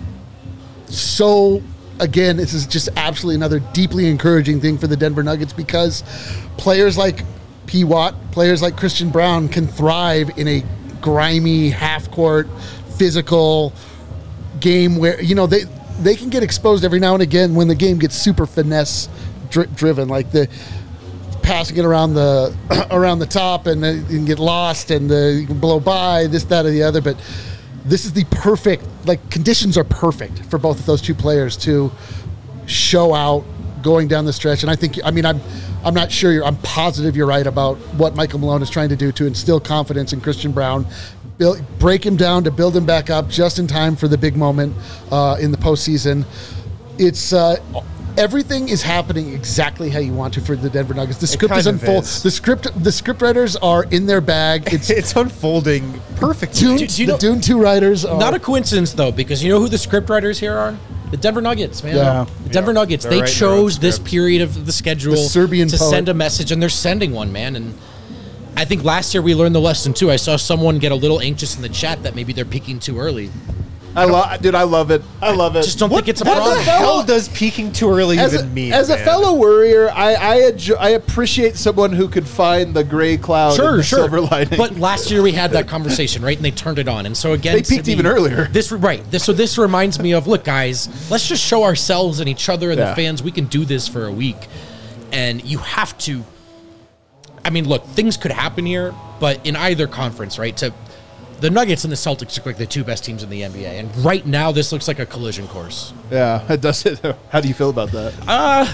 so, again, this is just absolutely another deeply encouraging thing for the Denver Nuggets, because players like P. Watt, players like Christian Brown can thrive in a grimy, half-court, physical game where, you know, they can get exposed every now and again when the game gets super finesse driven, like the passing it around the top and you can get lost and you can blow by this, that, or the other. But this is the perfect, like, conditions are perfect for both of those two players to show out going down the stretch. And I think, I mean, I'm not sure I'm positive you're right about what Michael Malone is trying to do to instill confidence in Christian Brown. Break him down to build him back up just in time for the big moment in the postseason. It's everything is happening exactly how you want to for the Denver Nuggets. The script is unfolding. The script writers are in their bag. It's unfolding perfectly. The Dune 2 writers are not a coincidence, though, because you know who the script writers here are? The Denver Nuggets, man. Yeah. The Denver Nuggets. They chose this period of the schedule to send a message, and they're sending one, man. And I think last year we learned the lesson too. I saw someone get a little anxious in the chat that maybe they're peaking too early. I love it. I love it. Just don't think it's a problem. What the hell does peaking too early even mean? As a fellow worrier, I appreciate someone who could find the gray cloud and the silver lining. But last year we had that conversation, right? And they turned it on. And so again, they peaked even earlier. This reminds me of, look, guys, let's just show ourselves and each other and the fans we can do this for a week. And you have to. I mean, look, things could happen here, but in either conference, right? The Nuggets and the Celtics look like the 2 best teams in the NBA, and right now this looks like a collision course. Yeah, it does. How do you feel about that?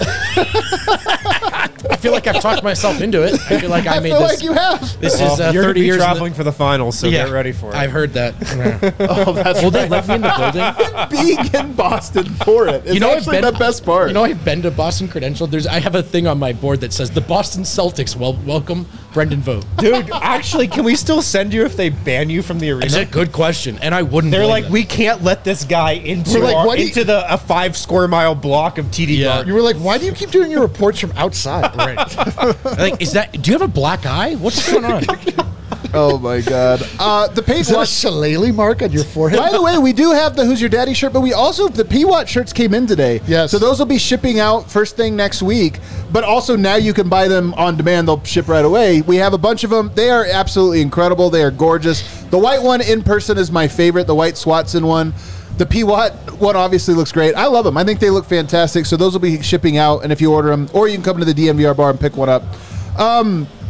I feel like I've talked myself into it. I feel like I made this. Like you have. This is you're 30 years traveling for the finals, so get ready for it. I've heard that. Oh, that's Well, they left me in the building. Being in Boston for it. It's actually the best part. You know, I've been to Boston credentialed. I have a thing on my board that says the Boston Celtics welcome Brendan Vogt. Dude, actually, can we still send you if they ban you from the arena? It's a good question, and I wouldn't. They're blame like, them. we can't let this guy into a 5 square mile block of TD Garden. You were like, why do you keep doing your reports from outside? Right. Like, do you have a black eye? What's going on? Oh my God. The Is that a shillelagh mark on your forehead? By the way, we do have the Who's Your Daddy shirt, but we also, the P-Watt shirts came in today. Yes. So those will be shipping out first thing next week, but also now you can buy them on demand. They'll ship right away. We have a bunch of them. They are absolutely incredible. They are gorgeous. The white one in person is my favorite, the white Swatson one. The P-Watt one obviously looks great. I love them. I think they look fantastic. So those will be shipping out, and if you order them, or you can come to the DNVR bar and pick one up.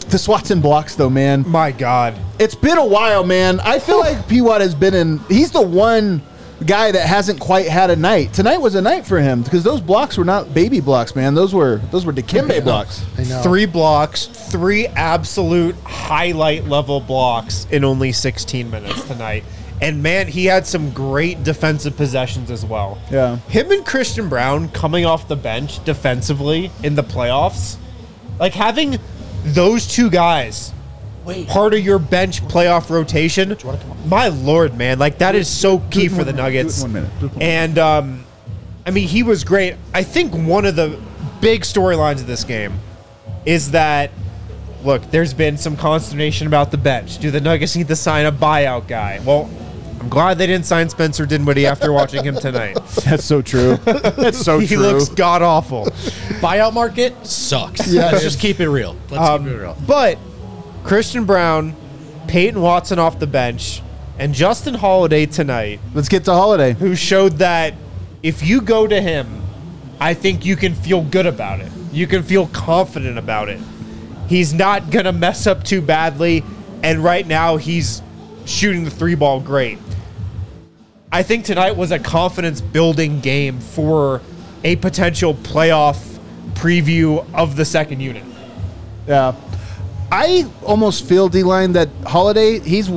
The swats and blocks, though, man. My God. It's been a while, man. I feel like P-Watt has been in. He's the one guy that hasn't quite had a night. Tonight was a night for him because those blocks were not baby blocks, man. Those were Dikembe blocks. I know. 3 blocks, 3 absolute highlight level blocks in only 16 minutes tonight. And man, he had some great defensive possessions as well. Yeah. Him and Christian Brown coming off the bench defensively in the playoffs, like having those two guys part of your bench playoff rotation, my Lord, man, like that is so key for the Nuggets. 1 minute. And I mean, he was great. I think one of the big storylines of this game is that, look, there's been some consternation about the bench. Do the Nuggets need to sign a buyout guy? Well, I'm glad they didn't sign Spencer Dinwiddie after watching him tonight. That's so true. That's so He true. looks god awful. Buyout market sucks. Yeah, Let's it just keep it real. Let's keep it real. But Christian Brown, Peyton Watson off the bench, and Justin Holiday tonight, Let's get to Holiday. who showed that if you go to him, I think you can feel good about it. You can feel confident about it. He's not going to mess up too badly, and right now he's shooting the 3-ball great. I think tonight was a confidence-building game for a potential playoff preview of the second unit. Yeah. I almost feel, D-Line, that Holiday,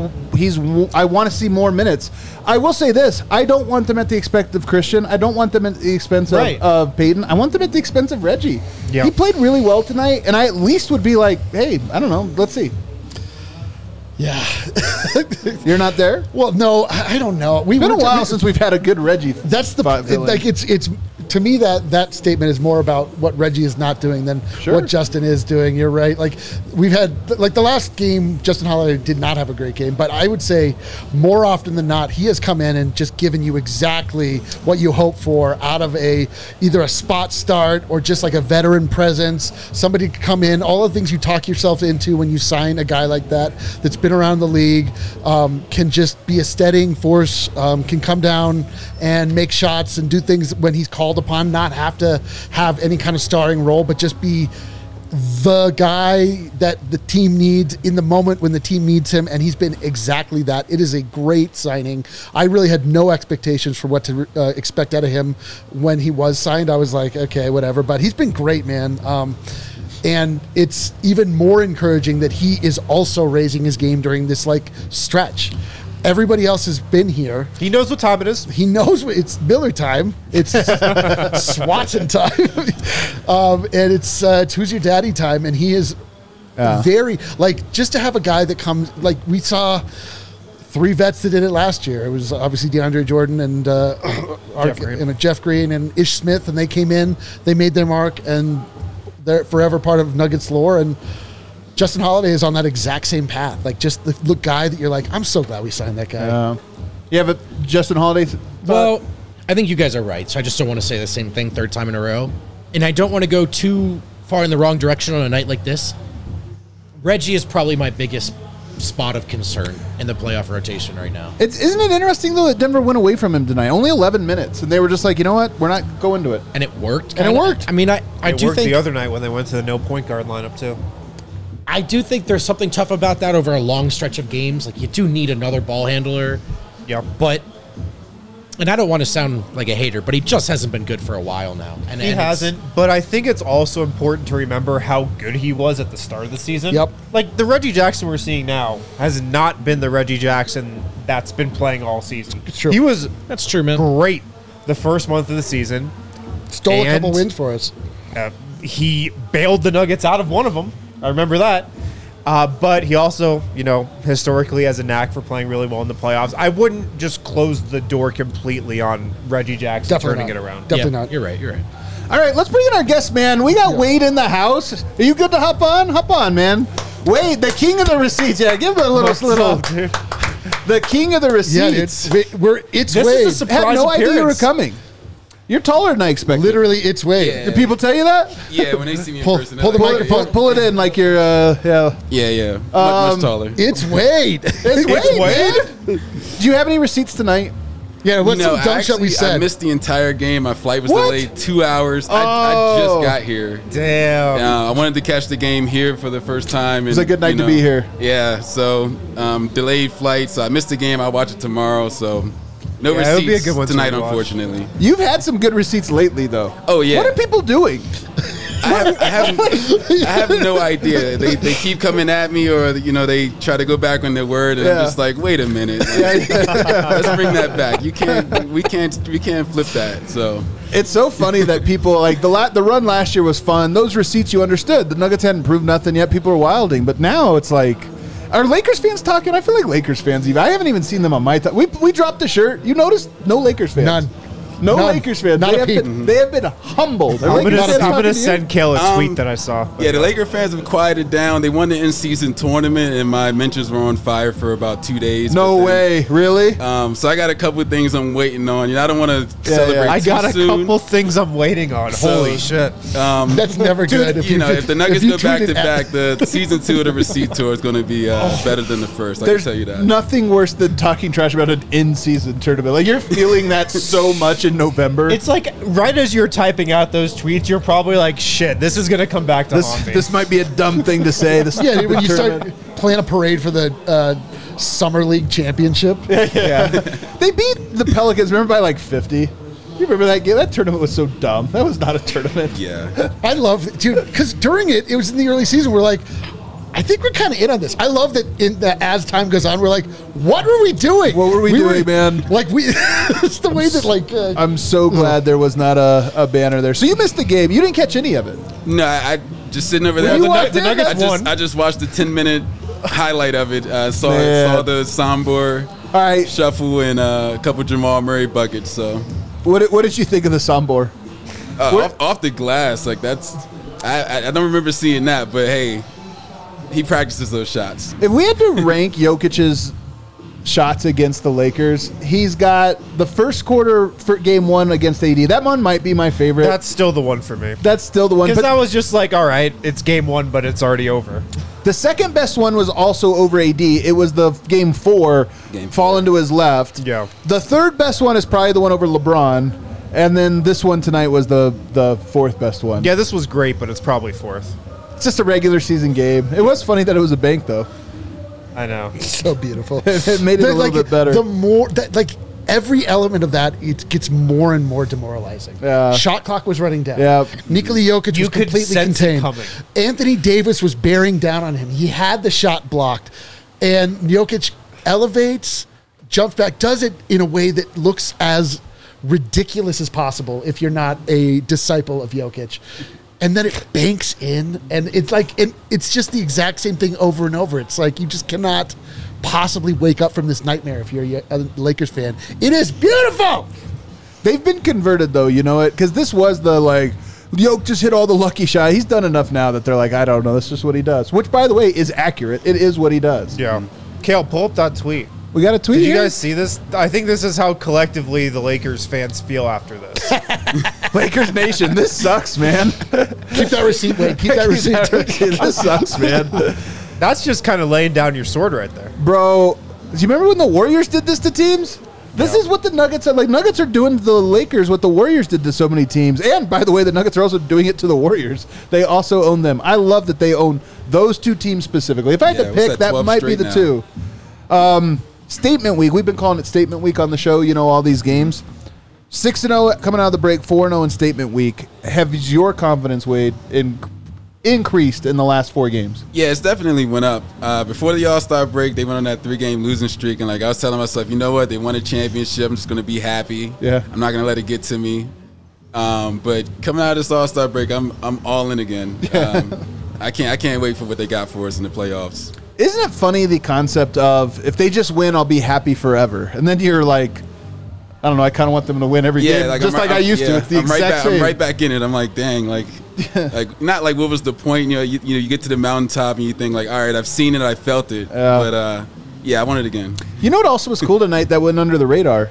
I want to see more minutes. I will say this. I don't want them at the expense of Christian. I don't want them at the expense of Peyton. I want them at the expense of Reggie. Yeah. He played really well tonight, and I at least would be like, hey, I don't know. Let's see. Yeah. You're not there? Well, no, I don't know. It's been a while since we've had a good Reggie. That's the villain. like. It's to me that statement is more about what Reggie is not doing than Sure. what Justin is doing. You're right. Like we've had like the last game, Justin Holiday did not have a great game, but I would say more often than not, he has come in and just given you exactly what you hope for out of either a spot start or just like a veteran presence. Somebody to come in, all the things you talk yourself into when you sign a guy like that's been around the league, can just be a steadying force, can come down and make shots and do things when he's called upon, not have to have any kind of starring role, but just be the guy that the team needs in the moment when the team needs him, and he's been exactly that. It is a great signing. I really had no expectations for what to expect out of him when he was signed. I was like, okay, whatever, but he's been great, man. And it's even more encouraging that he is also raising his game during this like stretch. Everybody else has been here. He knows what time it is. He knows it's Miller time. It's Swatson time. And it's Who's Your Daddy time. And he is very, like, just to have a guy that comes, like, we saw 3 vets that did it last year. It was obviously DeAndre Jordan and Jeff Green and Ish Smith, and they came in, they made their mark, and they're forever part of Nuggets lore. And Justin Holiday is on that exact same path. Like, just the guy that you're like, I'm so glad we signed that guy. Yeah, but Justin Holiday. Well, I think you guys are right, so I just don't want to say the same thing third time in a row. And I don't want to go too far in the wrong direction on a night like this. Reggie is probably my biggest spot of concern in the playoff rotation right now. Isn't it interesting, though, that Denver went away from him tonight? Only 11 minutes, and they were just like, you know what? We're not going to it. And it worked. And it kinda. worked. I mean, I It do worked think the other night when they went to the no point guard lineup too. I do think there's something tough about that over a long stretch of games. Like, you do need another ball handler. Yep. But, and I don't want to sound like a hater, but he just hasn't been good for a while now. And He hasn't, but I think it's also important to remember how good he was at the start of the season. Yep. Like, the Reggie Jackson we're seeing now has not been the Reggie Jackson that's been playing all season. It's true. He was That's true, man. great the first month of the season. Stole a couple And- wins for us. He bailed the Nuggets out of one of them. I remember that. But he also, historically has a knack for playing really well in the playoffs. I wouldn't just close the door completely on Reggie Jackson Definitely turning not. it around. Definitely Yeah, not. You're right. You're right. All right, let's bring in our guest, man. We got Wade in the house. Are you good to hop on? Hop on, man. Wade, the king of the receipts. Yeah, give him a little. dude? The king of the Yeah, receipts. dude. It's This Wade. is a I had surprise no idea you were appearance. coming. You're taller than I expected. Literally, it's Wade. Yeah. Did people tell you that? Yeah, when they see me in Pull- person, pull the they're like, microphone. Pull it in like you're, yeah. Yeah, much taller. It's Wade. It's Wade, Wade? man. Do you have any receipts tonight? Yeah, what's some dumb shit we I said? missed the entire game. My flight was What? delayed 2 hours. I just got here. Damn. I wanted to catch the game here for the first time. was a good night to be here. Yeah, so delayed flight, so I missed the game. I'll watch it tomorrow, so no Yeah, it'll be a receipts good one to tonight, watch. unfortunately. You've had some good receipts lately, though. Oh, yeah. What are people doing? I have no idea. They keep coming at me, or they try to go back on their word, and I'm Yeah. just like, wait a minute, let's bring that back. We can't flip that. So It's so funny that people like the run last year was fun. Those receipts you understood. The Nuggets hadn't proved nothing yet. People were wilding, but now it's like, are Lakers fans talking? I feel like Lakers fans even. I haven't even seen them on my. We dropped the shirt. You noticed? No Lakers fans. None. No None. Lakers fans. Not They a have, peep. been, they have been humbled. Are I'm Lakers fans talking gonna to you? send Kale a tweet Um, that I saw. yeah, the Laker fans have quieted down. They won the in-season tournament, and my mentions were on fire for about 2 days. No but then- way. Really? So I got a couple of things I'm waiting on. I don't want to Yeah, celebrate yeah. I too got a soon. couple things I'm waiting on. So, Holy shit. That's never good. If the Nuggets go back to back, the season 2 of the receipt tour is going to be better than the first. I can There's tell you that. nothing worse than talking trash about an in-season tournament. Like you're feeling that so much in November. It's like right as you're typing out those tweets, you're probably like, shit, this is going to come back to haunt me. This might be a dumb thing to say. This Yeah, when you start tournament. playing a parade for the Summer League Championship. yeah. They beat the Pelicans, remember, by like 50. You remember that game? That tournament was so dumb. That was not a tournament. Yeah. I love it, dude, because during it was in the early season. We're like, I think we're kind of in on this. I love that as time goes on, we're like, what were we doing? What were we doing, man? Like it's the way that like I'm so glad there was not a banner there. So you missed the game. You didn't catch any of it. No, I just sitting over Well, there. you walked in, Nuggets won. I just watched the 10-minute highlight of it. Saw Man. the Sombor All right. shuffle and a couple Jamal Murray buckets. So What did you think of the Sombor? off the glass, like that's I don't remember seeing that, but hey, he practices those shots. If we had to rank Jokic's shots against the Lakers, he's got the first quarter for game 1 against AD. That one might be my favorite. That's still the one for me. That's still the one. Because But that was just like, all right, it's game 1, but it's already over. the second best one was also over AD. It was the game 4, Game fall 4. into his left. Yeah. The third best one is probably the one over LeBron. And then this one tonight was the fourth best one. Yeah, this was great, but it's probably fourth. It's just a regular season game. It was funny that it was a bank, though. I know. so beautiful. It made it a little bit better. The more that like every element of that, it gets more and more demoralizing. Yeah. Shot clock was running down. Yeah. Nikola Jokic You was could completely sense it contained. coming. Anthony Davis was bearing down on him. He had the shot blocked, and Jokic elevates, jumps back, does it in a way that looks as ridiculous as possible if you're not a disciple of Jokic. And then it banks in, and it's like it's just the exact same thing over and over. It's like you just cannot possibly wake up from this nightmare if you're a Lakers fan. It is beautiful. They've been converted, though, you know it? Because this was the, like, Jokic just hit all the lucky shot. He's done enough now that they're like, I don't know. That's just what he does. Which, by the way, is accurate. It is what he does. Yeah. Kale, pull up that tweet. We got a tweet Did you here? guys see this? I think this is how collectively the Lakers fans feel after this. Lakers Nation, this sucks, man. Keep that receipt, Wade. Keep that receipt. This sucks, man. That's just kind of laying down your sword right there. Bro, do you remember when the Warriors did this to teams? This is what the Nuggets are like. Nuggets are doing to the Lakers what the Warriors did to so many teams. And by the way, the Nuggets are also doing it to the Warriors. They also own them. I love that they own those two teams specifically. If I had to what's pick, that, that 12 might be straight the now? two. Statement week. We've been calling it Statement Week on the show. You know all these games. 6-0 coming out of the break. 4-0 in Statement Week. Has your confidence, Wade, increased in the last 4 games? Yeah, it's definitely went up. Before the All-Star break, they went on that 3-game losing streak, and like I was telling myself, you know what? They won a championship. I'm just going to be happy. Yeah. I'm not going to let it get to me. But coming out of this All-Star break, I'm all in again. I can't wait for what they got for us in the playoffs. Isn't it funny, the concept of if they just win, I'll be happy forever, and then you're like, I don't know, I kind of want them to win every game, just like I used to. It's the exact same. I'm right back in it. I'm like, dang, like not like what was the point? You know, you get to the mountaintop and you think like, all right, I've seen it, I felt it, but yeah, I want it again. You know what also was cool tonight that went under the radar?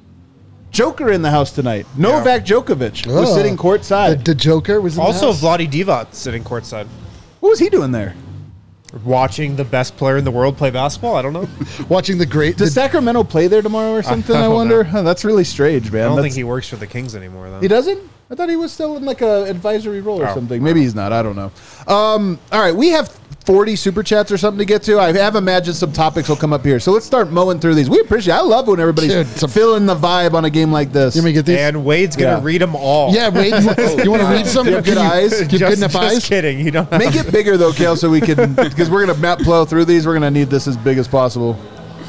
Joker in the house tonight. Novak Djokovic was sitting courtside. The Joker was in Also, the house. Vlade Divac sitting courtside. What was he doing there? Watching the best player in the world play basketball. I don't know. Watching the great. Does Sacramento play there tomorrow or something? I don't wonder. know. Huh, that's really strange, man. I don't That's- think he works for the Kings anymore, though. He doesn't? I thought he was still in like a advisory role or Oh. something. Maybe he's not. I don't know. All right, we have 40 super chats or something to get to. I have imagined some topics will come up here. So let's start mowing through these. We appreciate I love when everybody's Dude, feeling the vibe on a game like this. You want me to get these? And Wade's going to Yeah. read them all. Yeah, Wade, you want to read some? Do you have good eyes? Do you have good enough just eyes? kidding. You don't have Make it bigger though, Kale, so we can because we're gonna plow through these. We're gonna need this as big as possible.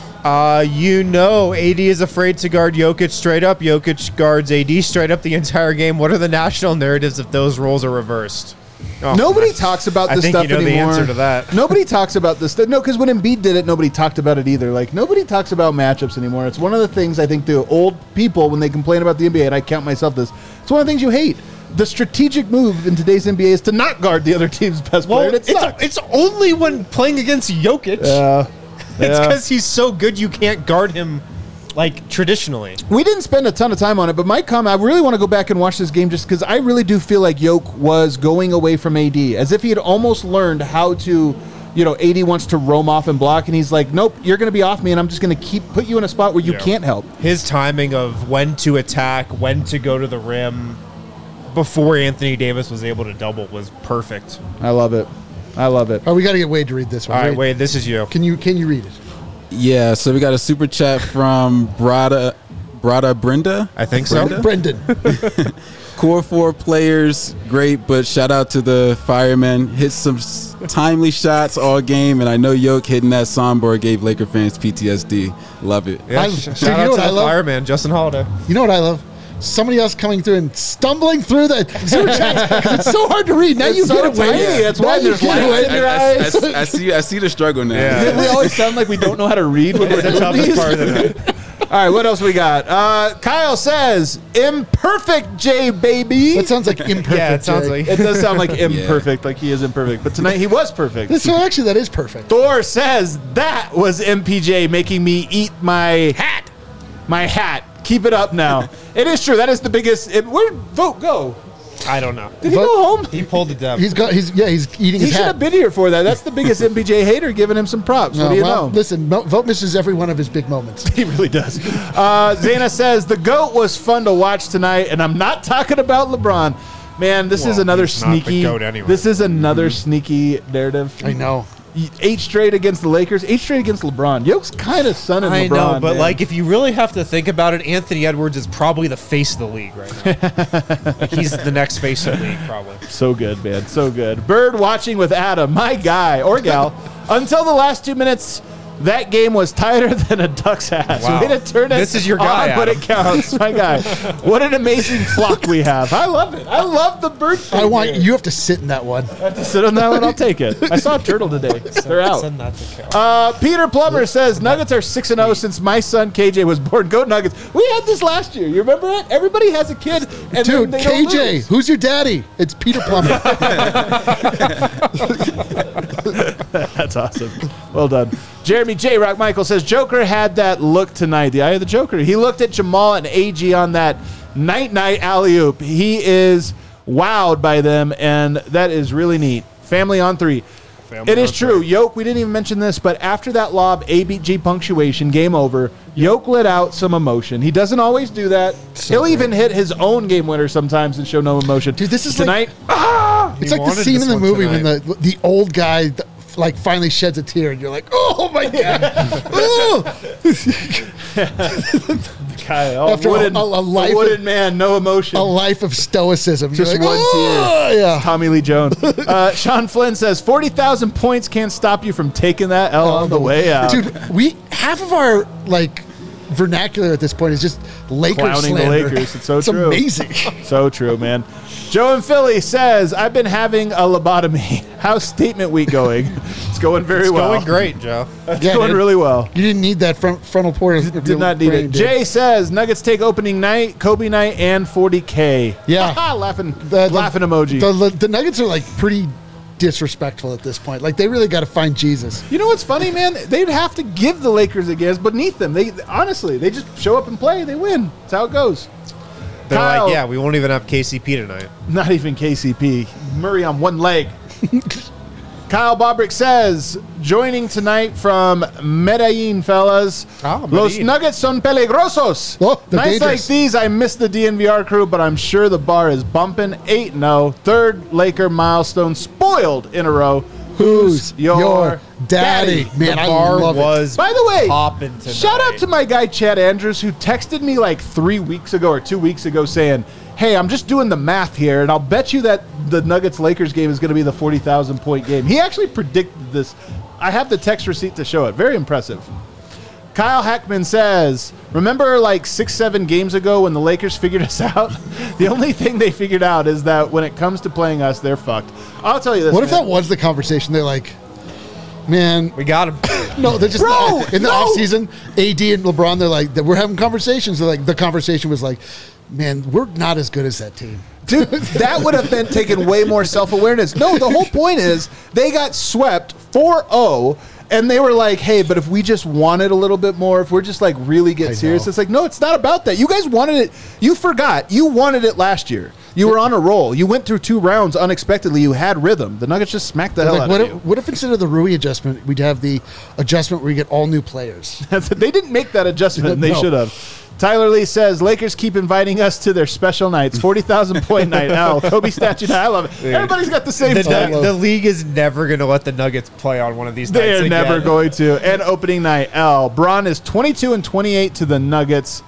AD is afraid to guard Jokic straight up. Jokic guards AD straight up the entire game. What are the national narratives if those roles are reversed? Oh, Nobody talks about I this think stuff you know anymore. the answer to that. Nobody talks about this stuff. No, because when Embiid did it, nobody talked about it either. Like nobody talks about matchups anymore. It's one of the things I think the old people when they complain about the NBA, and I count myself this. It's one of the things you hate. The strategic move in today's NBA is to not guard the other team's best player. Well, And it sucks. it's only when playing against Jokic. It's Yeah. because he's so good you can't guard him like traditionally. We didn't spend a ton of time on it, but my comment, I really want to go back and watch this game just because I really do feel like Jokic was going away from AD, as if he had almost learned how to, AD wants to roam off and block, and he's like, nope, you're going to be off me, and I'm just going to put you in a spot where you can't help. His timing of when to attack, when to go to the rim before Anthony Davis was able to double was perfect. I love it. All right, we got to get Wade to read this one. All right, Wade, this is you. Can you read it? Yeah, so we got a super chat from Brada Brenda. I think so. Brendan. Core 4 players, great, but shout out to the firemen. Hit some timely shots all game, and I know Yoke hitting that soundboard gave Laker fans PTSD. Love it. Yeah, Dude, shout you know out what to I the love? fireman, Justin Holiday. You know what I love? Somebody else coming through and stumbling through the super chats because it's so hard to read. Now you so get it, Wade. tiny. That's Now why you there's get it, lights Wade. in your eyes. I see the struggle now. Yeah. We always sound like we don't know how to read when we're The doing toughest these. part of the night. All right, what else we got? Kyle says, imperfect J, baby. That sounds like imperfect. Yeah, it sounds Jay. like. It does sound like imperfect, like he is imperfect. But tonight he was perfect. So actually, that is perfect. Thor says, that was MPJ making me eat my hat. My hat. Keep it up now. It is true. That is the biggest. Where'd Vote go? I don't know. Did he go home? He pulled the depth. He's eating He his should have hat. been here for that. That's the biggest MPJ hater, giving him some props. What do you know? Listen, Vote misses every one of his big moments. He really does. Zana says, the GOAT was fun to watch tonight, and I'm not talking about LeBron. Man, this is Well, another he's not the sneaky. GOAT anyway. This is another sneaky narrative. I know. 8 straight against the Lakers, 8 straight against LeBron. Yoke's kind of sunning I LeBron. know, but man. like if you really have to think about it, Anthony Edwards is probably the face of the league right now. Like he's the next face of the league, probably. So good, man. So good. Bird watching with Adam, my guy or gal. Until the last 2 minutes, that game was tighter than a duck's ass. Wow. Way to turn it This is your guy, on when Adam. it counts. My guy. What an amazing flock we have. I love it. I love the bird thing I want here. you have to sit in that one. I have to sit on that one. I'll take it. I saw a turtle today. They're out. Send that to Cal. Peter Plummer says Nuggets are 6-0 since my son KJ was born. Go Nuggets. We had this last year. You remember it? Everybody has a kid. And Dude, then they don't KJ, lose. who's your daddy? It's Peter Plummer. That's awesome. Well done. Jeremy J. Rock Michael says Joker had that look tonight. The eye of the Joker. He looked at Jamal and AG on that night alley-oop. He is wowed by them, and that is really neat. Family on 3. It is true. Yoke, we didn't even mention this, but after that lob, A beat G punctuation, game over. Yoke let out some emotion. He doesn't always do that. He'll even hit his own game winner sometimes and show no emotion. Dude, this is tonight. It's like the wanted scene this in the one movie when tonight. the old guy like finally sheds a tear, and you're like, oh my god. Oh! Guy, After a life wooden of- man, no emotion. A life of stoicism. Just You're like, one oh, tear. Yeah. Tommy Lee Jones. Sean Flynn says 40,000 points can't stop you from taking that L on the way out. Dude, half of our like vernacular at this point is just Lakers Clowning the slander. Lakers. It's so true. Amazing. So true, man. Joe in Philly says, I've been having a lobotomy. How's statement week going? It's going very well. Going great, Joe. It's Yeah, going dude. really well. You didn't need that frontal port. of Did your not need brain, it. dude. Jay says, Nuggets take opening night, Kobe night, and 40K. Yeah. laughing The- laughing emoji. The Nuggets are like pretty disrespectful at this point. Like they really got to find Jesus. You know what's funny, man? They'd have to give the Lakers a guess beneath them. They honestly, they just show up and play. They win. That's how it goes. They're Kyle. like, yeah, we won't even have KCP tonight. Not even KCP. Murray on one leg. Kyle Bobrick says, joining tonight from Medellin, fellas. Los Medellin. Nuggets son peligrosos. Oh, they're Nights like dangerous. these, I miss the DNVR crew, but I'm sure the bar is bumping. 8-0, third Laker milestone spoiled in a row. Who's your daddy? Man, The I bar love it. was By the way, popping tonight. shout out to my guy Chad Andrews, who texted me like 3 weeks ago or 2 weeks ago saying, hey, I'm just doing the math here, and I'll bet you that the Nuggets-Lakers game is going to be the 40,000-point game. He actually predicted this. I have the text receipt to show it. Very impressive. Kyle Hackman says, remember like 6-7 games ago when the Lakers figured us out? The only thing they figured out is that when it comes to playing us, they're fucked. I'll tell you this, What if man. that was the conversation? They're like, man, We got him. no, they're just Bro, in the no. offseason, AD and LeBron, they're like, we're having conversations. They're like, the conversation was like, man, we're not as good as that team. Dude, that would have been taken way more self-awareness. No, the whole point is they got swept 4-0, and they were like, hey, but if we just wanted a little bit more, if we're just like really get I serious, know. it's like, no, it's not about that. You guys wanted it. You forgot. You wanted it last year. You were on a roll. You went through 2 rounds unexpectedly. You had rhythm. The Nuggets just smacked the hell Like, out what of if, you. what if instead of the Rui adjustment, we'd have the adjustment where we get all new players? They didn't make that adjustment, and they No. should have. Tyler Lee says, Lakers keep inviting us to their special nights. 40,000 point night. L. Kobe statue night. I love it. Everybody's got the same The, tag. the league is never going to let the Nuggets play on one of these nights They are again. never going to. And opening night, L. Braun is 22-28 to the Nuggets.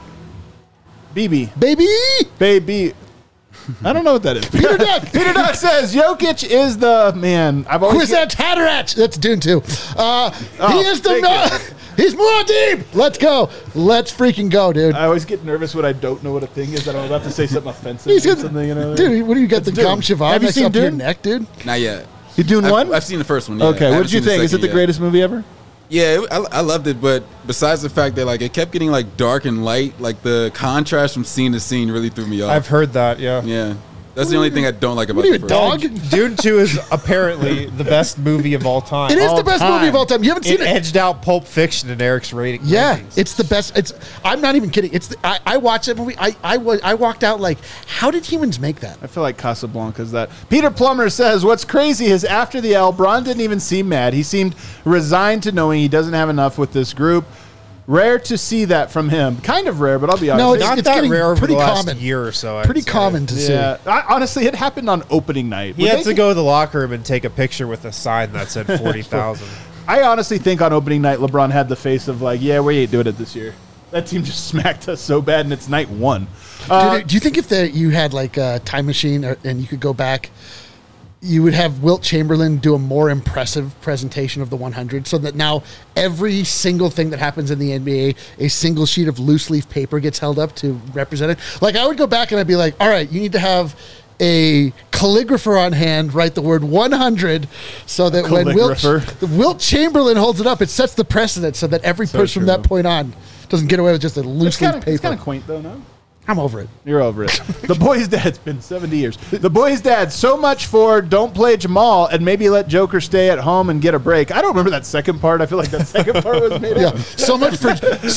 BB. Baby! I don't know what that is. Peter Duck! Peter Duck says Jokic is the man. I've always Quiz that Tatteratch! That's Dune 2. He is the... thank He's Muad'Dib! Let's go. Let's freaking go, dude. I always get nervous when I don't know what a thing is. That I'm about to say something offensive. He's or gonna, something, you know. dude, what do you got? The Dune. Gom Shivan Have you next seen up to your Dune? neck, dude? Not yet. You doing one? I've seen the first one. Yeah. Okay. I What haven't did you seen think? Is it second the yet. greatest movie ever? Yeah, I loved it, but besides the fact that like it kept getting like dark and light, like the contrast from scene to scene really threw me off. I've heard that, yeah. yeah, that's the only thing I don't like about What are you, the a first dog? one. Dune 2 is apparently the best movie of all time. It is All the best time. movie of all time. You haven't It seen it? edged out Pulp Fiction in Eric's rating. Yeah, rankings. it's the best. It's. I'm not even kidding. It's. I watched that movie. I walked out like, how did humans make that? I feel like Casablanca's that. Peter Plummer says, what's crazy is after the L, Braun didn't even seem mad. He seemed resigned to knowing he doesn't have enough with this group. Rare to see that from him. Kind of rare, but I'll be honest. No, it's not it's that getting rare over pretty the last common. year or so. I'd Pretty say. common to see. yeah. Honestly, it happened on opening night. He Would had they- to go to the locker room and take a picture with a sign that said 40,000. I honestly think on opening night, LeBron had the face of like, yeah, we ain't doing it this year. That team just smacked us so bad, and it's night 1. Do you think if you had like a time machine and you could go back, you would have Wilt Chamberlain do a more impressive presentation of the 100 so that now every single thing that happens in the NBA, a single sheet of loose leaf paper gets held up to represent it? Like, I would go back and I'd be like, all right, you need to have a calligrapher on hand write the word 100 so that when Calligrapher. Wilt Chamberlain holds it up, it sets the precedent so that every person from that true. point on doesn't get away with just a loose leaf It's paper. kind of quaint, though, no? I'm over it. You're over it. The boy's dad, it's been 70 years. The boy's dad, so much for don't play Jamal and maybe let Joker stay at home and get a break. I don't remember that second part. I feel like that second part was made Yeah, up. so much for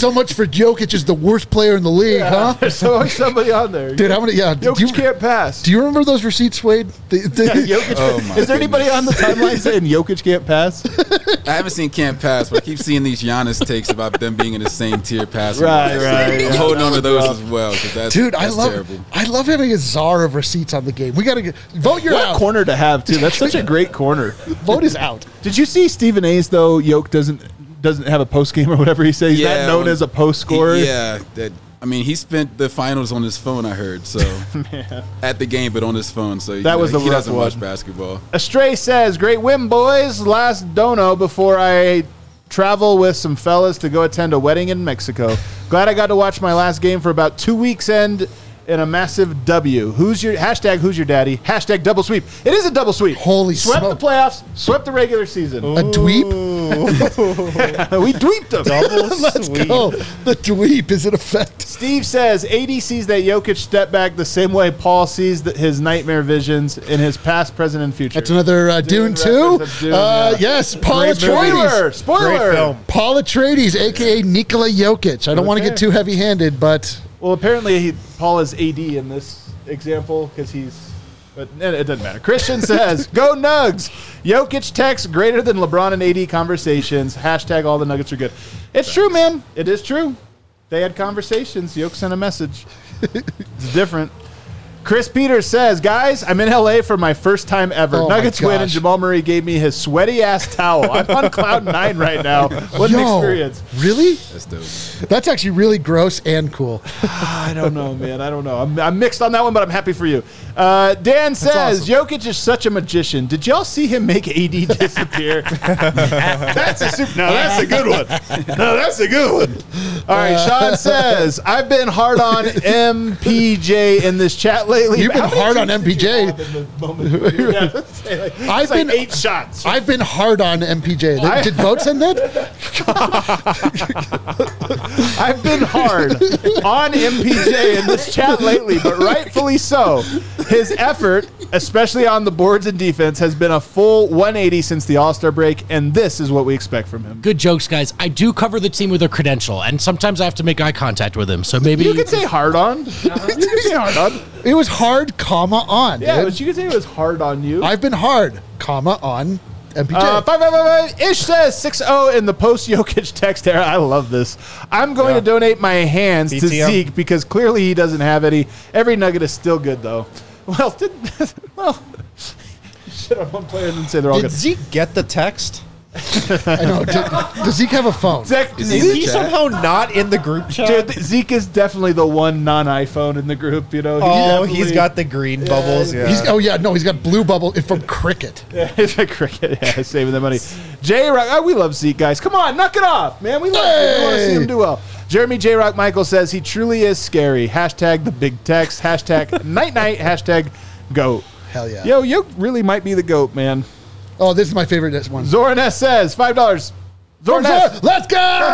Jokic is the worst player in the league, huh? There's always somebody on there. Dude, how many? Yeah, Jokic can't pass. do you remember those receipts, Wade? Jokic, Oh my is there anybody on the timeline saying Jokic can't pass? I haven't seen Camp Pass, but I keep seeing these Giannis takes about them being in the same tier passing. Right, So right. I'm holding on to those as well because that's Dude, that's terrible. I love having a czar of receipts on the game. We gotta vote your What a out. corner to have, too. That's such a great corner. Vote is out. Did you see Stephen A's, though, Yoke doesn't have a post game or whatever he says? He's not known when- as a post scorer. Yeah, I mean, he spent the finals on his phone. I heard so at the game, but on his phone. So That was the he rough doesn't watch one. basketball. Astray says, great win, boys. Last dono before I travel with some fellas to go attend a wedding in Mexico. Glad I got to watch my last game for about 2 weeks end in a massive W. Who's your daddy? Hashtag double sweep. It is a double sweep. Holy Swept smoke. the playoffs, swept the regular season. A dweep? We dweeped them. Let's go. The dweep is in effect. Steve says AD sees that Jokic step back the same way Paul sees his nightmare visions in his past, present, and future. That's another Dune 2. reference of Dune, yeah. Yes, Paul Great movie. Atreides. Spoiler! Great film. Paul Atreides, a.k.a. Nikola Jokic. I don't want to Okay. get too heavy-handed, but Well, apparently Paul is AD in this example because he's But it doesn't matter. Christian says, "Go Nugs." Jokic text greater than LeBron and AD conversations. Hashtag all the Nuggets are good. It's true, man. It is true. They had conversations. Jokic sent a message. It's different. Chris Peters says, "Guys, I'm in LA for my first time ever. Oh my Nuggets win, and gosh. Jamal Murray gave me his sweaty ass towel. I'm on cloud 9 right now. What an experience." Really? That's dope. That's actually really gross and cool. I don't know, man. I don't know. I'm mixed on that one, but I'm happy for you. Dan says, "Jokic is such a magician. Did y'all see him make AD disappear?" That's a good one. No, that's a good one. All right, Sean says, "I've been hard on MPJ in this chat lately." You've been How many hard on did you MPJ. have in the moment? Yeah, it's like 8 shots. I've been hard on MPJ. Did Vote send that? I've been hard on MPJ in this chat lately, but rightfully so. His effort, especially on the boards and defense, has been a full 180 since the All-Star break, and this is what we expect from him. Good jokes, guys. I do cover the team with a credential, and sometimes I have to make eye contact with him. So maybe You could say hard on. You could say hard on. It was hard, comma, on. Yeah, dude. but you could say it was hard on you. I've been hard, comma, on MPJ. 555 Ish says 6-0 in the post-Jokic text era. I love this. "I'm going to donate my hands to BTM. Zeke because clearly he doesn't have any. Every Nugget is still good, though." Well, shit on one player and then say they're all Did good. Zeke get the text? I know. Does Zeke have a phone? Is he somehow not in the group chat? Dude, Zeke is definitely the one non-iPhone in the group. You know, He's got the green bubbles. Yeah. He's got blue bubble from Cricket. He's like cricket. Yeah, saving the money. J Rock, we love Zeke, guys. Come on, knock it off, man. We love him. We want to see him do well. Jeremy J Rock Michael says he truly is scary. Hashtag the big text. Hashtag night night. Hashtag goat. Hell yeah. Yo, you really might be the goat, man. Oh, this is my favorite one. Zoran S says $5. Zoran S. Let's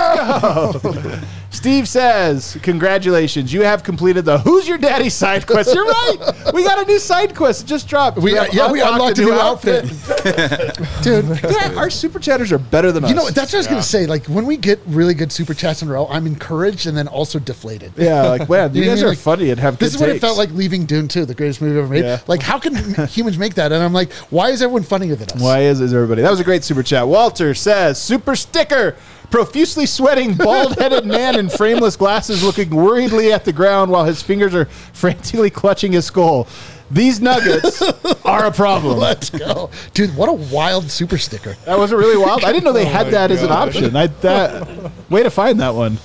go! Steve says, "Congratulations, you have completed the Who's Your Daddy side quest." You're right. We got a new side quest. It just dropped. We unlocked a new outfit. Dude, Yeah, our super chatters are better than us. you know, that's what I was going to say. Like, when we get really good super chats in a row, I'm encouraged and then also deflated. Yeah, like, man, you You know guys what I are mean? funny and have good This is what it takes. felt like leaving Dune 2, the greatest movie ever made. Yeah. Like, how can humans make that? And I'm like, why is everyone funnier than us? Why is everybody? That was a great super chat. Walter says, "Super sticker. Profusely sweating, bald-headed man in frameless glasses looking worriedly at the ground while his fingers are frantically clutching his skull. These Nuggets are a problem." Let's go. Dude, what a wild super sticker. That wasn't really wild. I didn't know they had my that as an God. option. Way to find that one.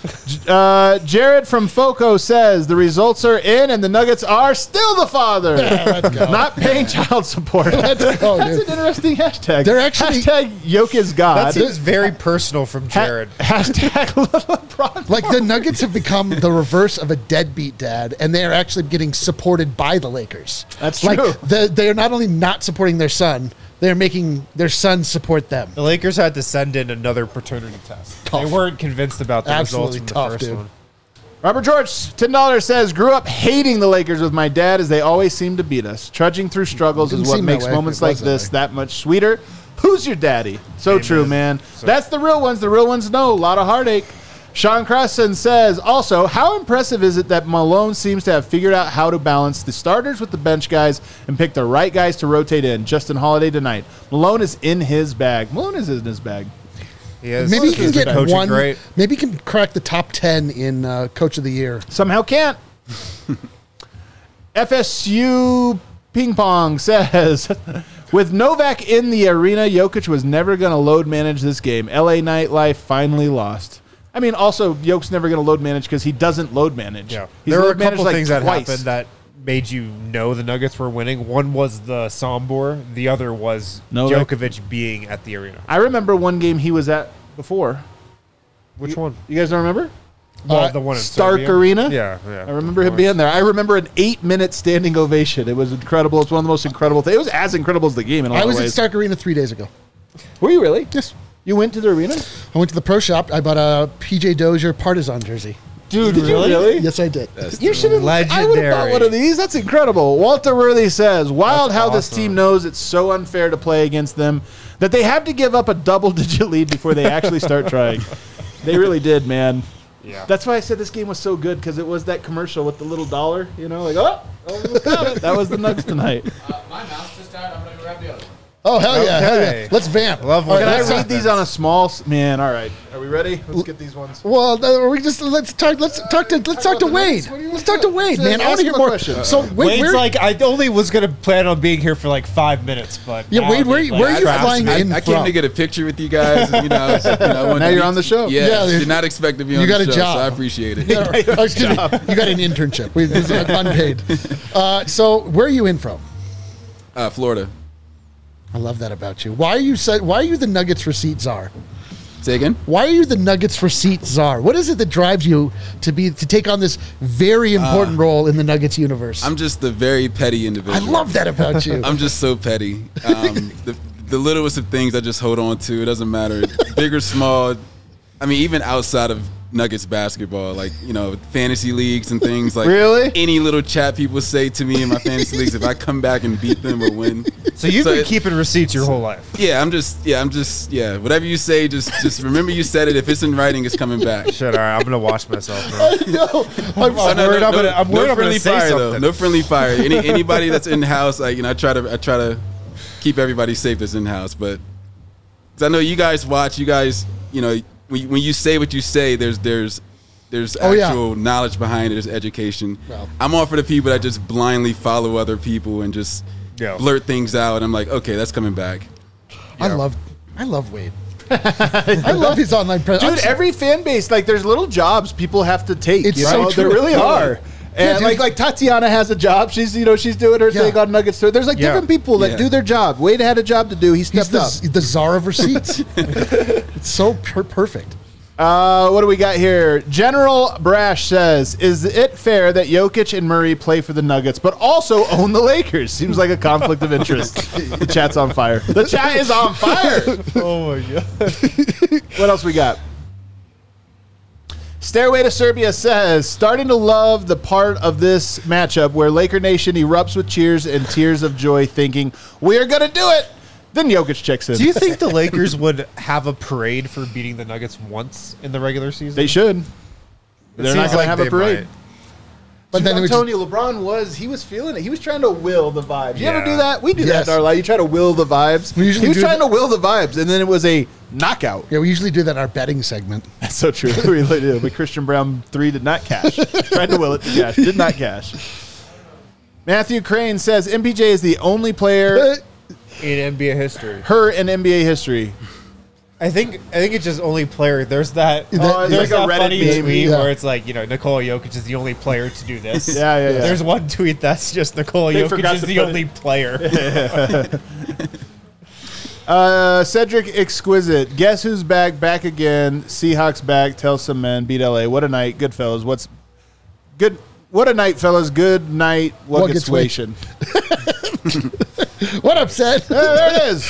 Jared from Foco says the results are in and the Nuggets are still the father. Let's go. Not paying child support. Let's go, That's dude. an interesting hashtag. They're actually- hashtag Yoke is God. That seems very personal from Jared. Hashtag little LeBron. Like, the Nuggets have become the reverse of a deadbeat dad, and they are actually getting supported by the Lakers. That's like, true. They are not only not supporting their son, they're making their son support them. The Lakers had to send in another paternity test. They weren't convinced about the Absolutely results from tough, the first dude. one. Robert George, $10 says, "Grew up hating the Lakers with my dad as they always seem to beat us. Trudging through struggles is Didn't what seem that makes way. moments It like was that this way. that much sweeter. Who's your daddy?" So Amen. true, man. So- That's the real ones. The real ones know. A lot of heartache. Sean Crossan says, also, how impressive is it that Malone seems to have figured out how to balance the starters with the bench guys and pick the right guys to rotate in? Justin Holiday tonight. Malone is in his bag. Malone is in his bag. He is, Maybe he can he's been get coaching one. Great. Maybe he can crack the top 10 in Coach of the Year. Somehow can't. FSU Ping Pong says, with Novak in the arena, Jokic was never going to load manage this game. LA Nightlife finally lost. I mean, also, Jokic's never going to load manage because he doesn't load manage. Yeah, He's there were a load managed, couple like, things that twice. happened that made you know the Nuggets were winning. One was the Sombor. The other was Novak. Djokovic being at the arena. I remember one game he was at before. Which one? You guys don't remember? Well, the one in Stark Serbia? Arena? Yeah, yeah. I remember him being there. I remember an 8-minute standing ovation. It was incredible. It's one of the most incredible things. It was as incredible as the game in a lot I of was at ways. Stark Arena 3 days ago. Were you really? Yes. You went to the arena? I went to the pro shop. I bought a PJ Dozier Partizan jersey. Dude, did you really? Yes, I did. You should have. I would have bought Legendary. one of these. That's incredible. Walter Worthy says, "Wild That's how this awesome. team knows it's so unfair to play against them that they have to give up a double-digit lead before they actually start trying." They really did, man. Yeah. That's why I said this game was so good, because it was that commercial with the little dollar, like, that was the Nugs tonight. My mouse just died. I'm going to grab the other one. Oh, hell yeah. Hell Okay. yeah. Let's vamp. Love All when Can I let's read these on a small man? All right, are we ready? Let's get these ones. Well, let's talk to Wade. Let's talk to Wade, man. I want to hear Ask him a more. question. So Wade, Wade's where, like, I only was going to plan on being here for like 5 minutes, but Yeah, now Wade, I'm where like, are you trapped. flying in I came from? to get a picture with you guys. And, I wanted Now to you're meet on the show. Yeah, Yeah, did not expect to be on you got the a show, job. so I appreciate it. Oh, excuse me. You got an internship. This is unpaid. So where are you in from? Florida. I love that about you. Why are you the Nuggets receipt czar? Say again? Why are you the Nuggets receipt czar? What is it that drives you to take on this very important role in the Nuggets universe? I'm just a very petty I individual. love that about you. I'm just so petty. The littlest of things I just hold on to. It doesn't matter. Big or small. I mean, even outside of Nuggets basketball, like, fantasy leagues and things like Really? any little chat people say to me in my fantasy leagues, if I come back and beat them or win. So you've been it- keeping receipts your whole life. I'm just whatever you say, just remember you said it. If it's in writing, it's coming back. Shit, all right, I'm gonna watch myself. Bro. No, I'm Oh, worried I'm gonna- I'm worried I'm friendly gonna say fire though. something. No friendly fire. Anybody that's in the house, I try to keep everybody safe that's in the house. But 'cause I know you guys watch. You guys, when you say what you say, there's Oh, yeah. actual knowledge behind it. There's education. Well. I'm all for the people that just blindly follow other people and just Yeah. blurt things out. I'm like, okay, that's coming back. I love Wade. I love his online presence. Dude, every fan base, like, there's little jobs people have to take. It's so There true. really are. And dude. like Tatiana has a job. She's she's doing her Yeah. thing on Nuggets. So there's like Yeah. different people that Yeah. do their job. Wade had a job to do. He He's stepped up. the czar of receipts. It's so perfect. What do we got here? General Brash says, is it fair that Jokic and Murray play for the Nuggets, but also own the Lakers? Seems like a conflict of interest. The chat's on fire. The chat is on fire. Oh my god. What else we got? Stairway to Serbia says, starting to love the part of this matchup where Laker Nation erupts with cheers and tears of joy, thinking, we are going to do it. Then Jokic checks in. Do you think the Lakers would have a parade for beating the Nuggets once in the regular season? They should. It They're not seems going like to have a they parade. might. But then I'm it was telling you, LeBron was feeling it. He was trying to will the vibes. You ever Yeah. do that? We do Yes. that in our life. You try to will the vibes. We usually he was do trying that- to will the vibes, and then it was a knockout. yeah, we usually do that in our betting segment. That's so true. We really do. But Christian Brown 3 did not cash. Tried to will it to cash. Did not cash. Matthew Crane says MPJ is the only player In NBA history. her in NBA history. I think it's just only player. There's that. Oh, it's there's like a that Reddit funny meme. tweet Yeah. where it's like, Nikola Jokic is the only player to do this. Yeah. There's one tweet that's just Nikola They Jokic forgot is to the put it. only player. Cedric Exquisite. Guess who's back? Back again. Seahawks back. Tell some men. Beat LA. What a night. Good fellas. What's good? What a night, fellas. Good night. What gets wation? What upset? There it is.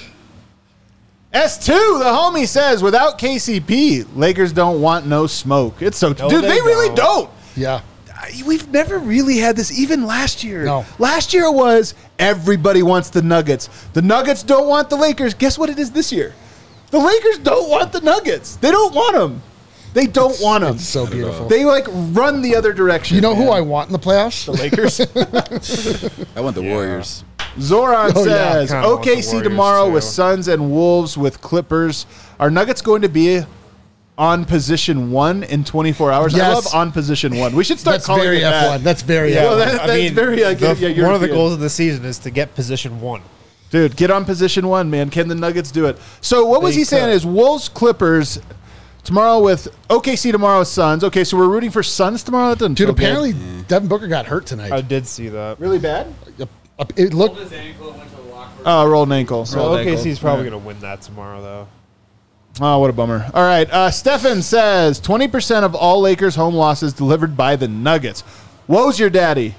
S2, the homie says, without KCP, Lakers don't want no smoke. It's so No, dude, they they really don't. Yeah. We've never really had this, even last year. No. Last year it was everybody wants the Nuggets. The Nuggets don't want the Lakers. Guess what it is this year? The Lakers don't want the Nuggets. They don't want them. They don't want them. It's so beautiful. They like run the other direction. You know who man. I want in the playoffs? The Lakers. I want the Warriors. Zoran Oh, yeah. says, Kinda want the OKC Warriors, tomorrow too. with Suns and Wolves with Clippers. Are Nuggets going to be on position 1 in 24 hours? I Yes. love on position 1. We should start That's calling very it that. F1. That's very Yeah, F1. that's very, the- yeah, one of the European. goals of the season is to get position 1. Dude, get on position 1, man. Can the Nuggets do it? So what was They he saying could. is Wolves, Clippers tomorrow with OKC tomorrow with Suns. Okay, so we're rooting for Suns tomorrow? That doesn't Dude, feel good. apparently Devin Booker got hurt tonight. I did see that. Really bad? It looked. His ankle went to the locker room. Oh, rolled an ankle. So Rolled ankle. OKC's probably going to win that tomorrow, though. Oh, what a bummer. All right. Stefan says 20% of all Lakers home losses delivered by the Nuggets. Woe's your daddy.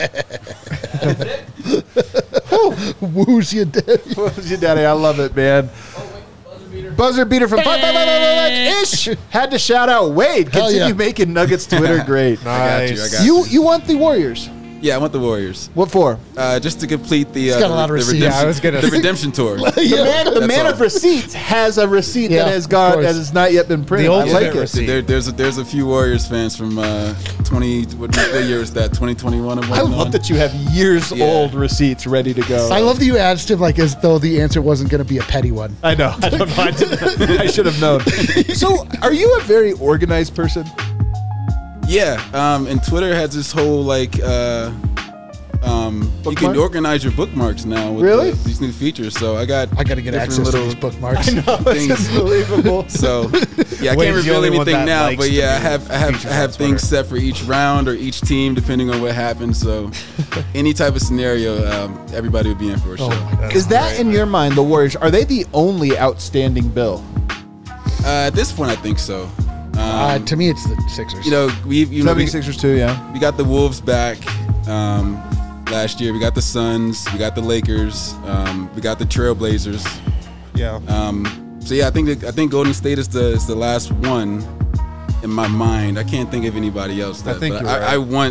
Woo's your daddy. Woe's your daddy. I love it, man. Oh, wait, buzzer beater. Buzzer beater from 555 ish. Had to shout out Wade. Hell Continue yeah. making Nuggets Twitter great. I got you. Nice. You want the Warriors. Yeah, I want the Warriors. What for? Just to complete the got a lot of receipts. redemption, Yeah, I was gonna the say. redemption tour. The man all. of receipts has a receipt Yeah, that has of course. not yet been printed. The I ultimate like it. receipt. There's a few Warriors fans from 20. What year is that? 2021. I love that you have years Yeah. old receipts ready to go. I love that you asked him like as though the answer wasn't going to be a petty one. I know. I don't know. I, didn't, I should have known. So, are you a very organized person? Yeah, and Twitter has this whole like you Bookmark? can organize your bookmarks now with Really? these new features. So I got I got to get different access to these bookmarks. things. Unbelievable. So yeah, I Wade's can't the reveal only one anything that now, likes but the yeah, I new have features on things Twitter. set for each round or each team depending on what happens. So any type of scenario, everybody would be in for a show. Oh my God. Is that in your mind the Warriors? Are they the only outstanding bill? At this point, I think so. To me, it's the Sixers. You know, we 76ers too, yeah. we got the Wolves back last year. We got the Suns. We got the Lakers. We got the Trailblazers. Yeah. So yeah, I think Golden State is the last one in my mind. I can't think of anybody else. I think but you're right. I want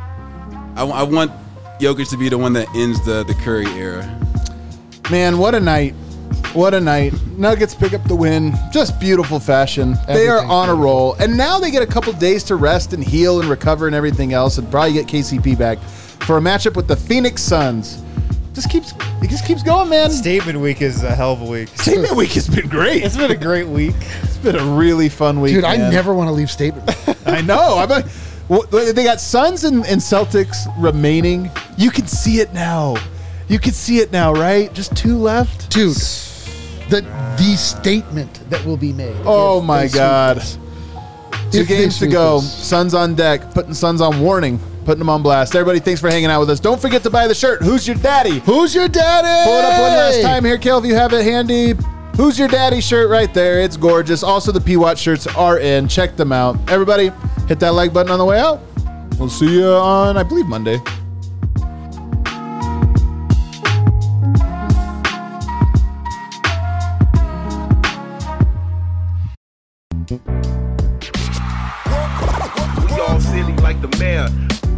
Jokic to be the one that ends the Curry era. Man, what a night. What a night. Nuggets pick up the win. Just beautiful fashion. They are Everything's on a beautiful. roll. And now they get a couple days to rest and heal and recover and everything else and probably get KCP back for a matchup with the Phoenix Suns. It just keeps going, man. Statement week is a hell of a week. Statement week has been great. It's been a great week. It's been a really fun week. Dude, I man. never want to leave Statement. I know. I'm like, well, they got Suns and Celtics remaining. You can see it now. You can see it now, right? Just two left. Dude, the statement that will be made. Oh if my they God. sweep us. Two If they games to sweep go. us. Suns on deck. Putting Suns on warning. Putting them on blast. Everybody, thanks for hanging out with us. Don't forget to buy the shirt. Who's your daddy? Who's your daddy? Pull it up one last time here, Kel, if you have it handy. Who's your daddy shirt right there? It's gorgeous. Also, the P-Watch shirts are in. Check them out. Everybody, hit that like button on the way out. We'll see you on, I believe, Monday. We all silly like the mayor.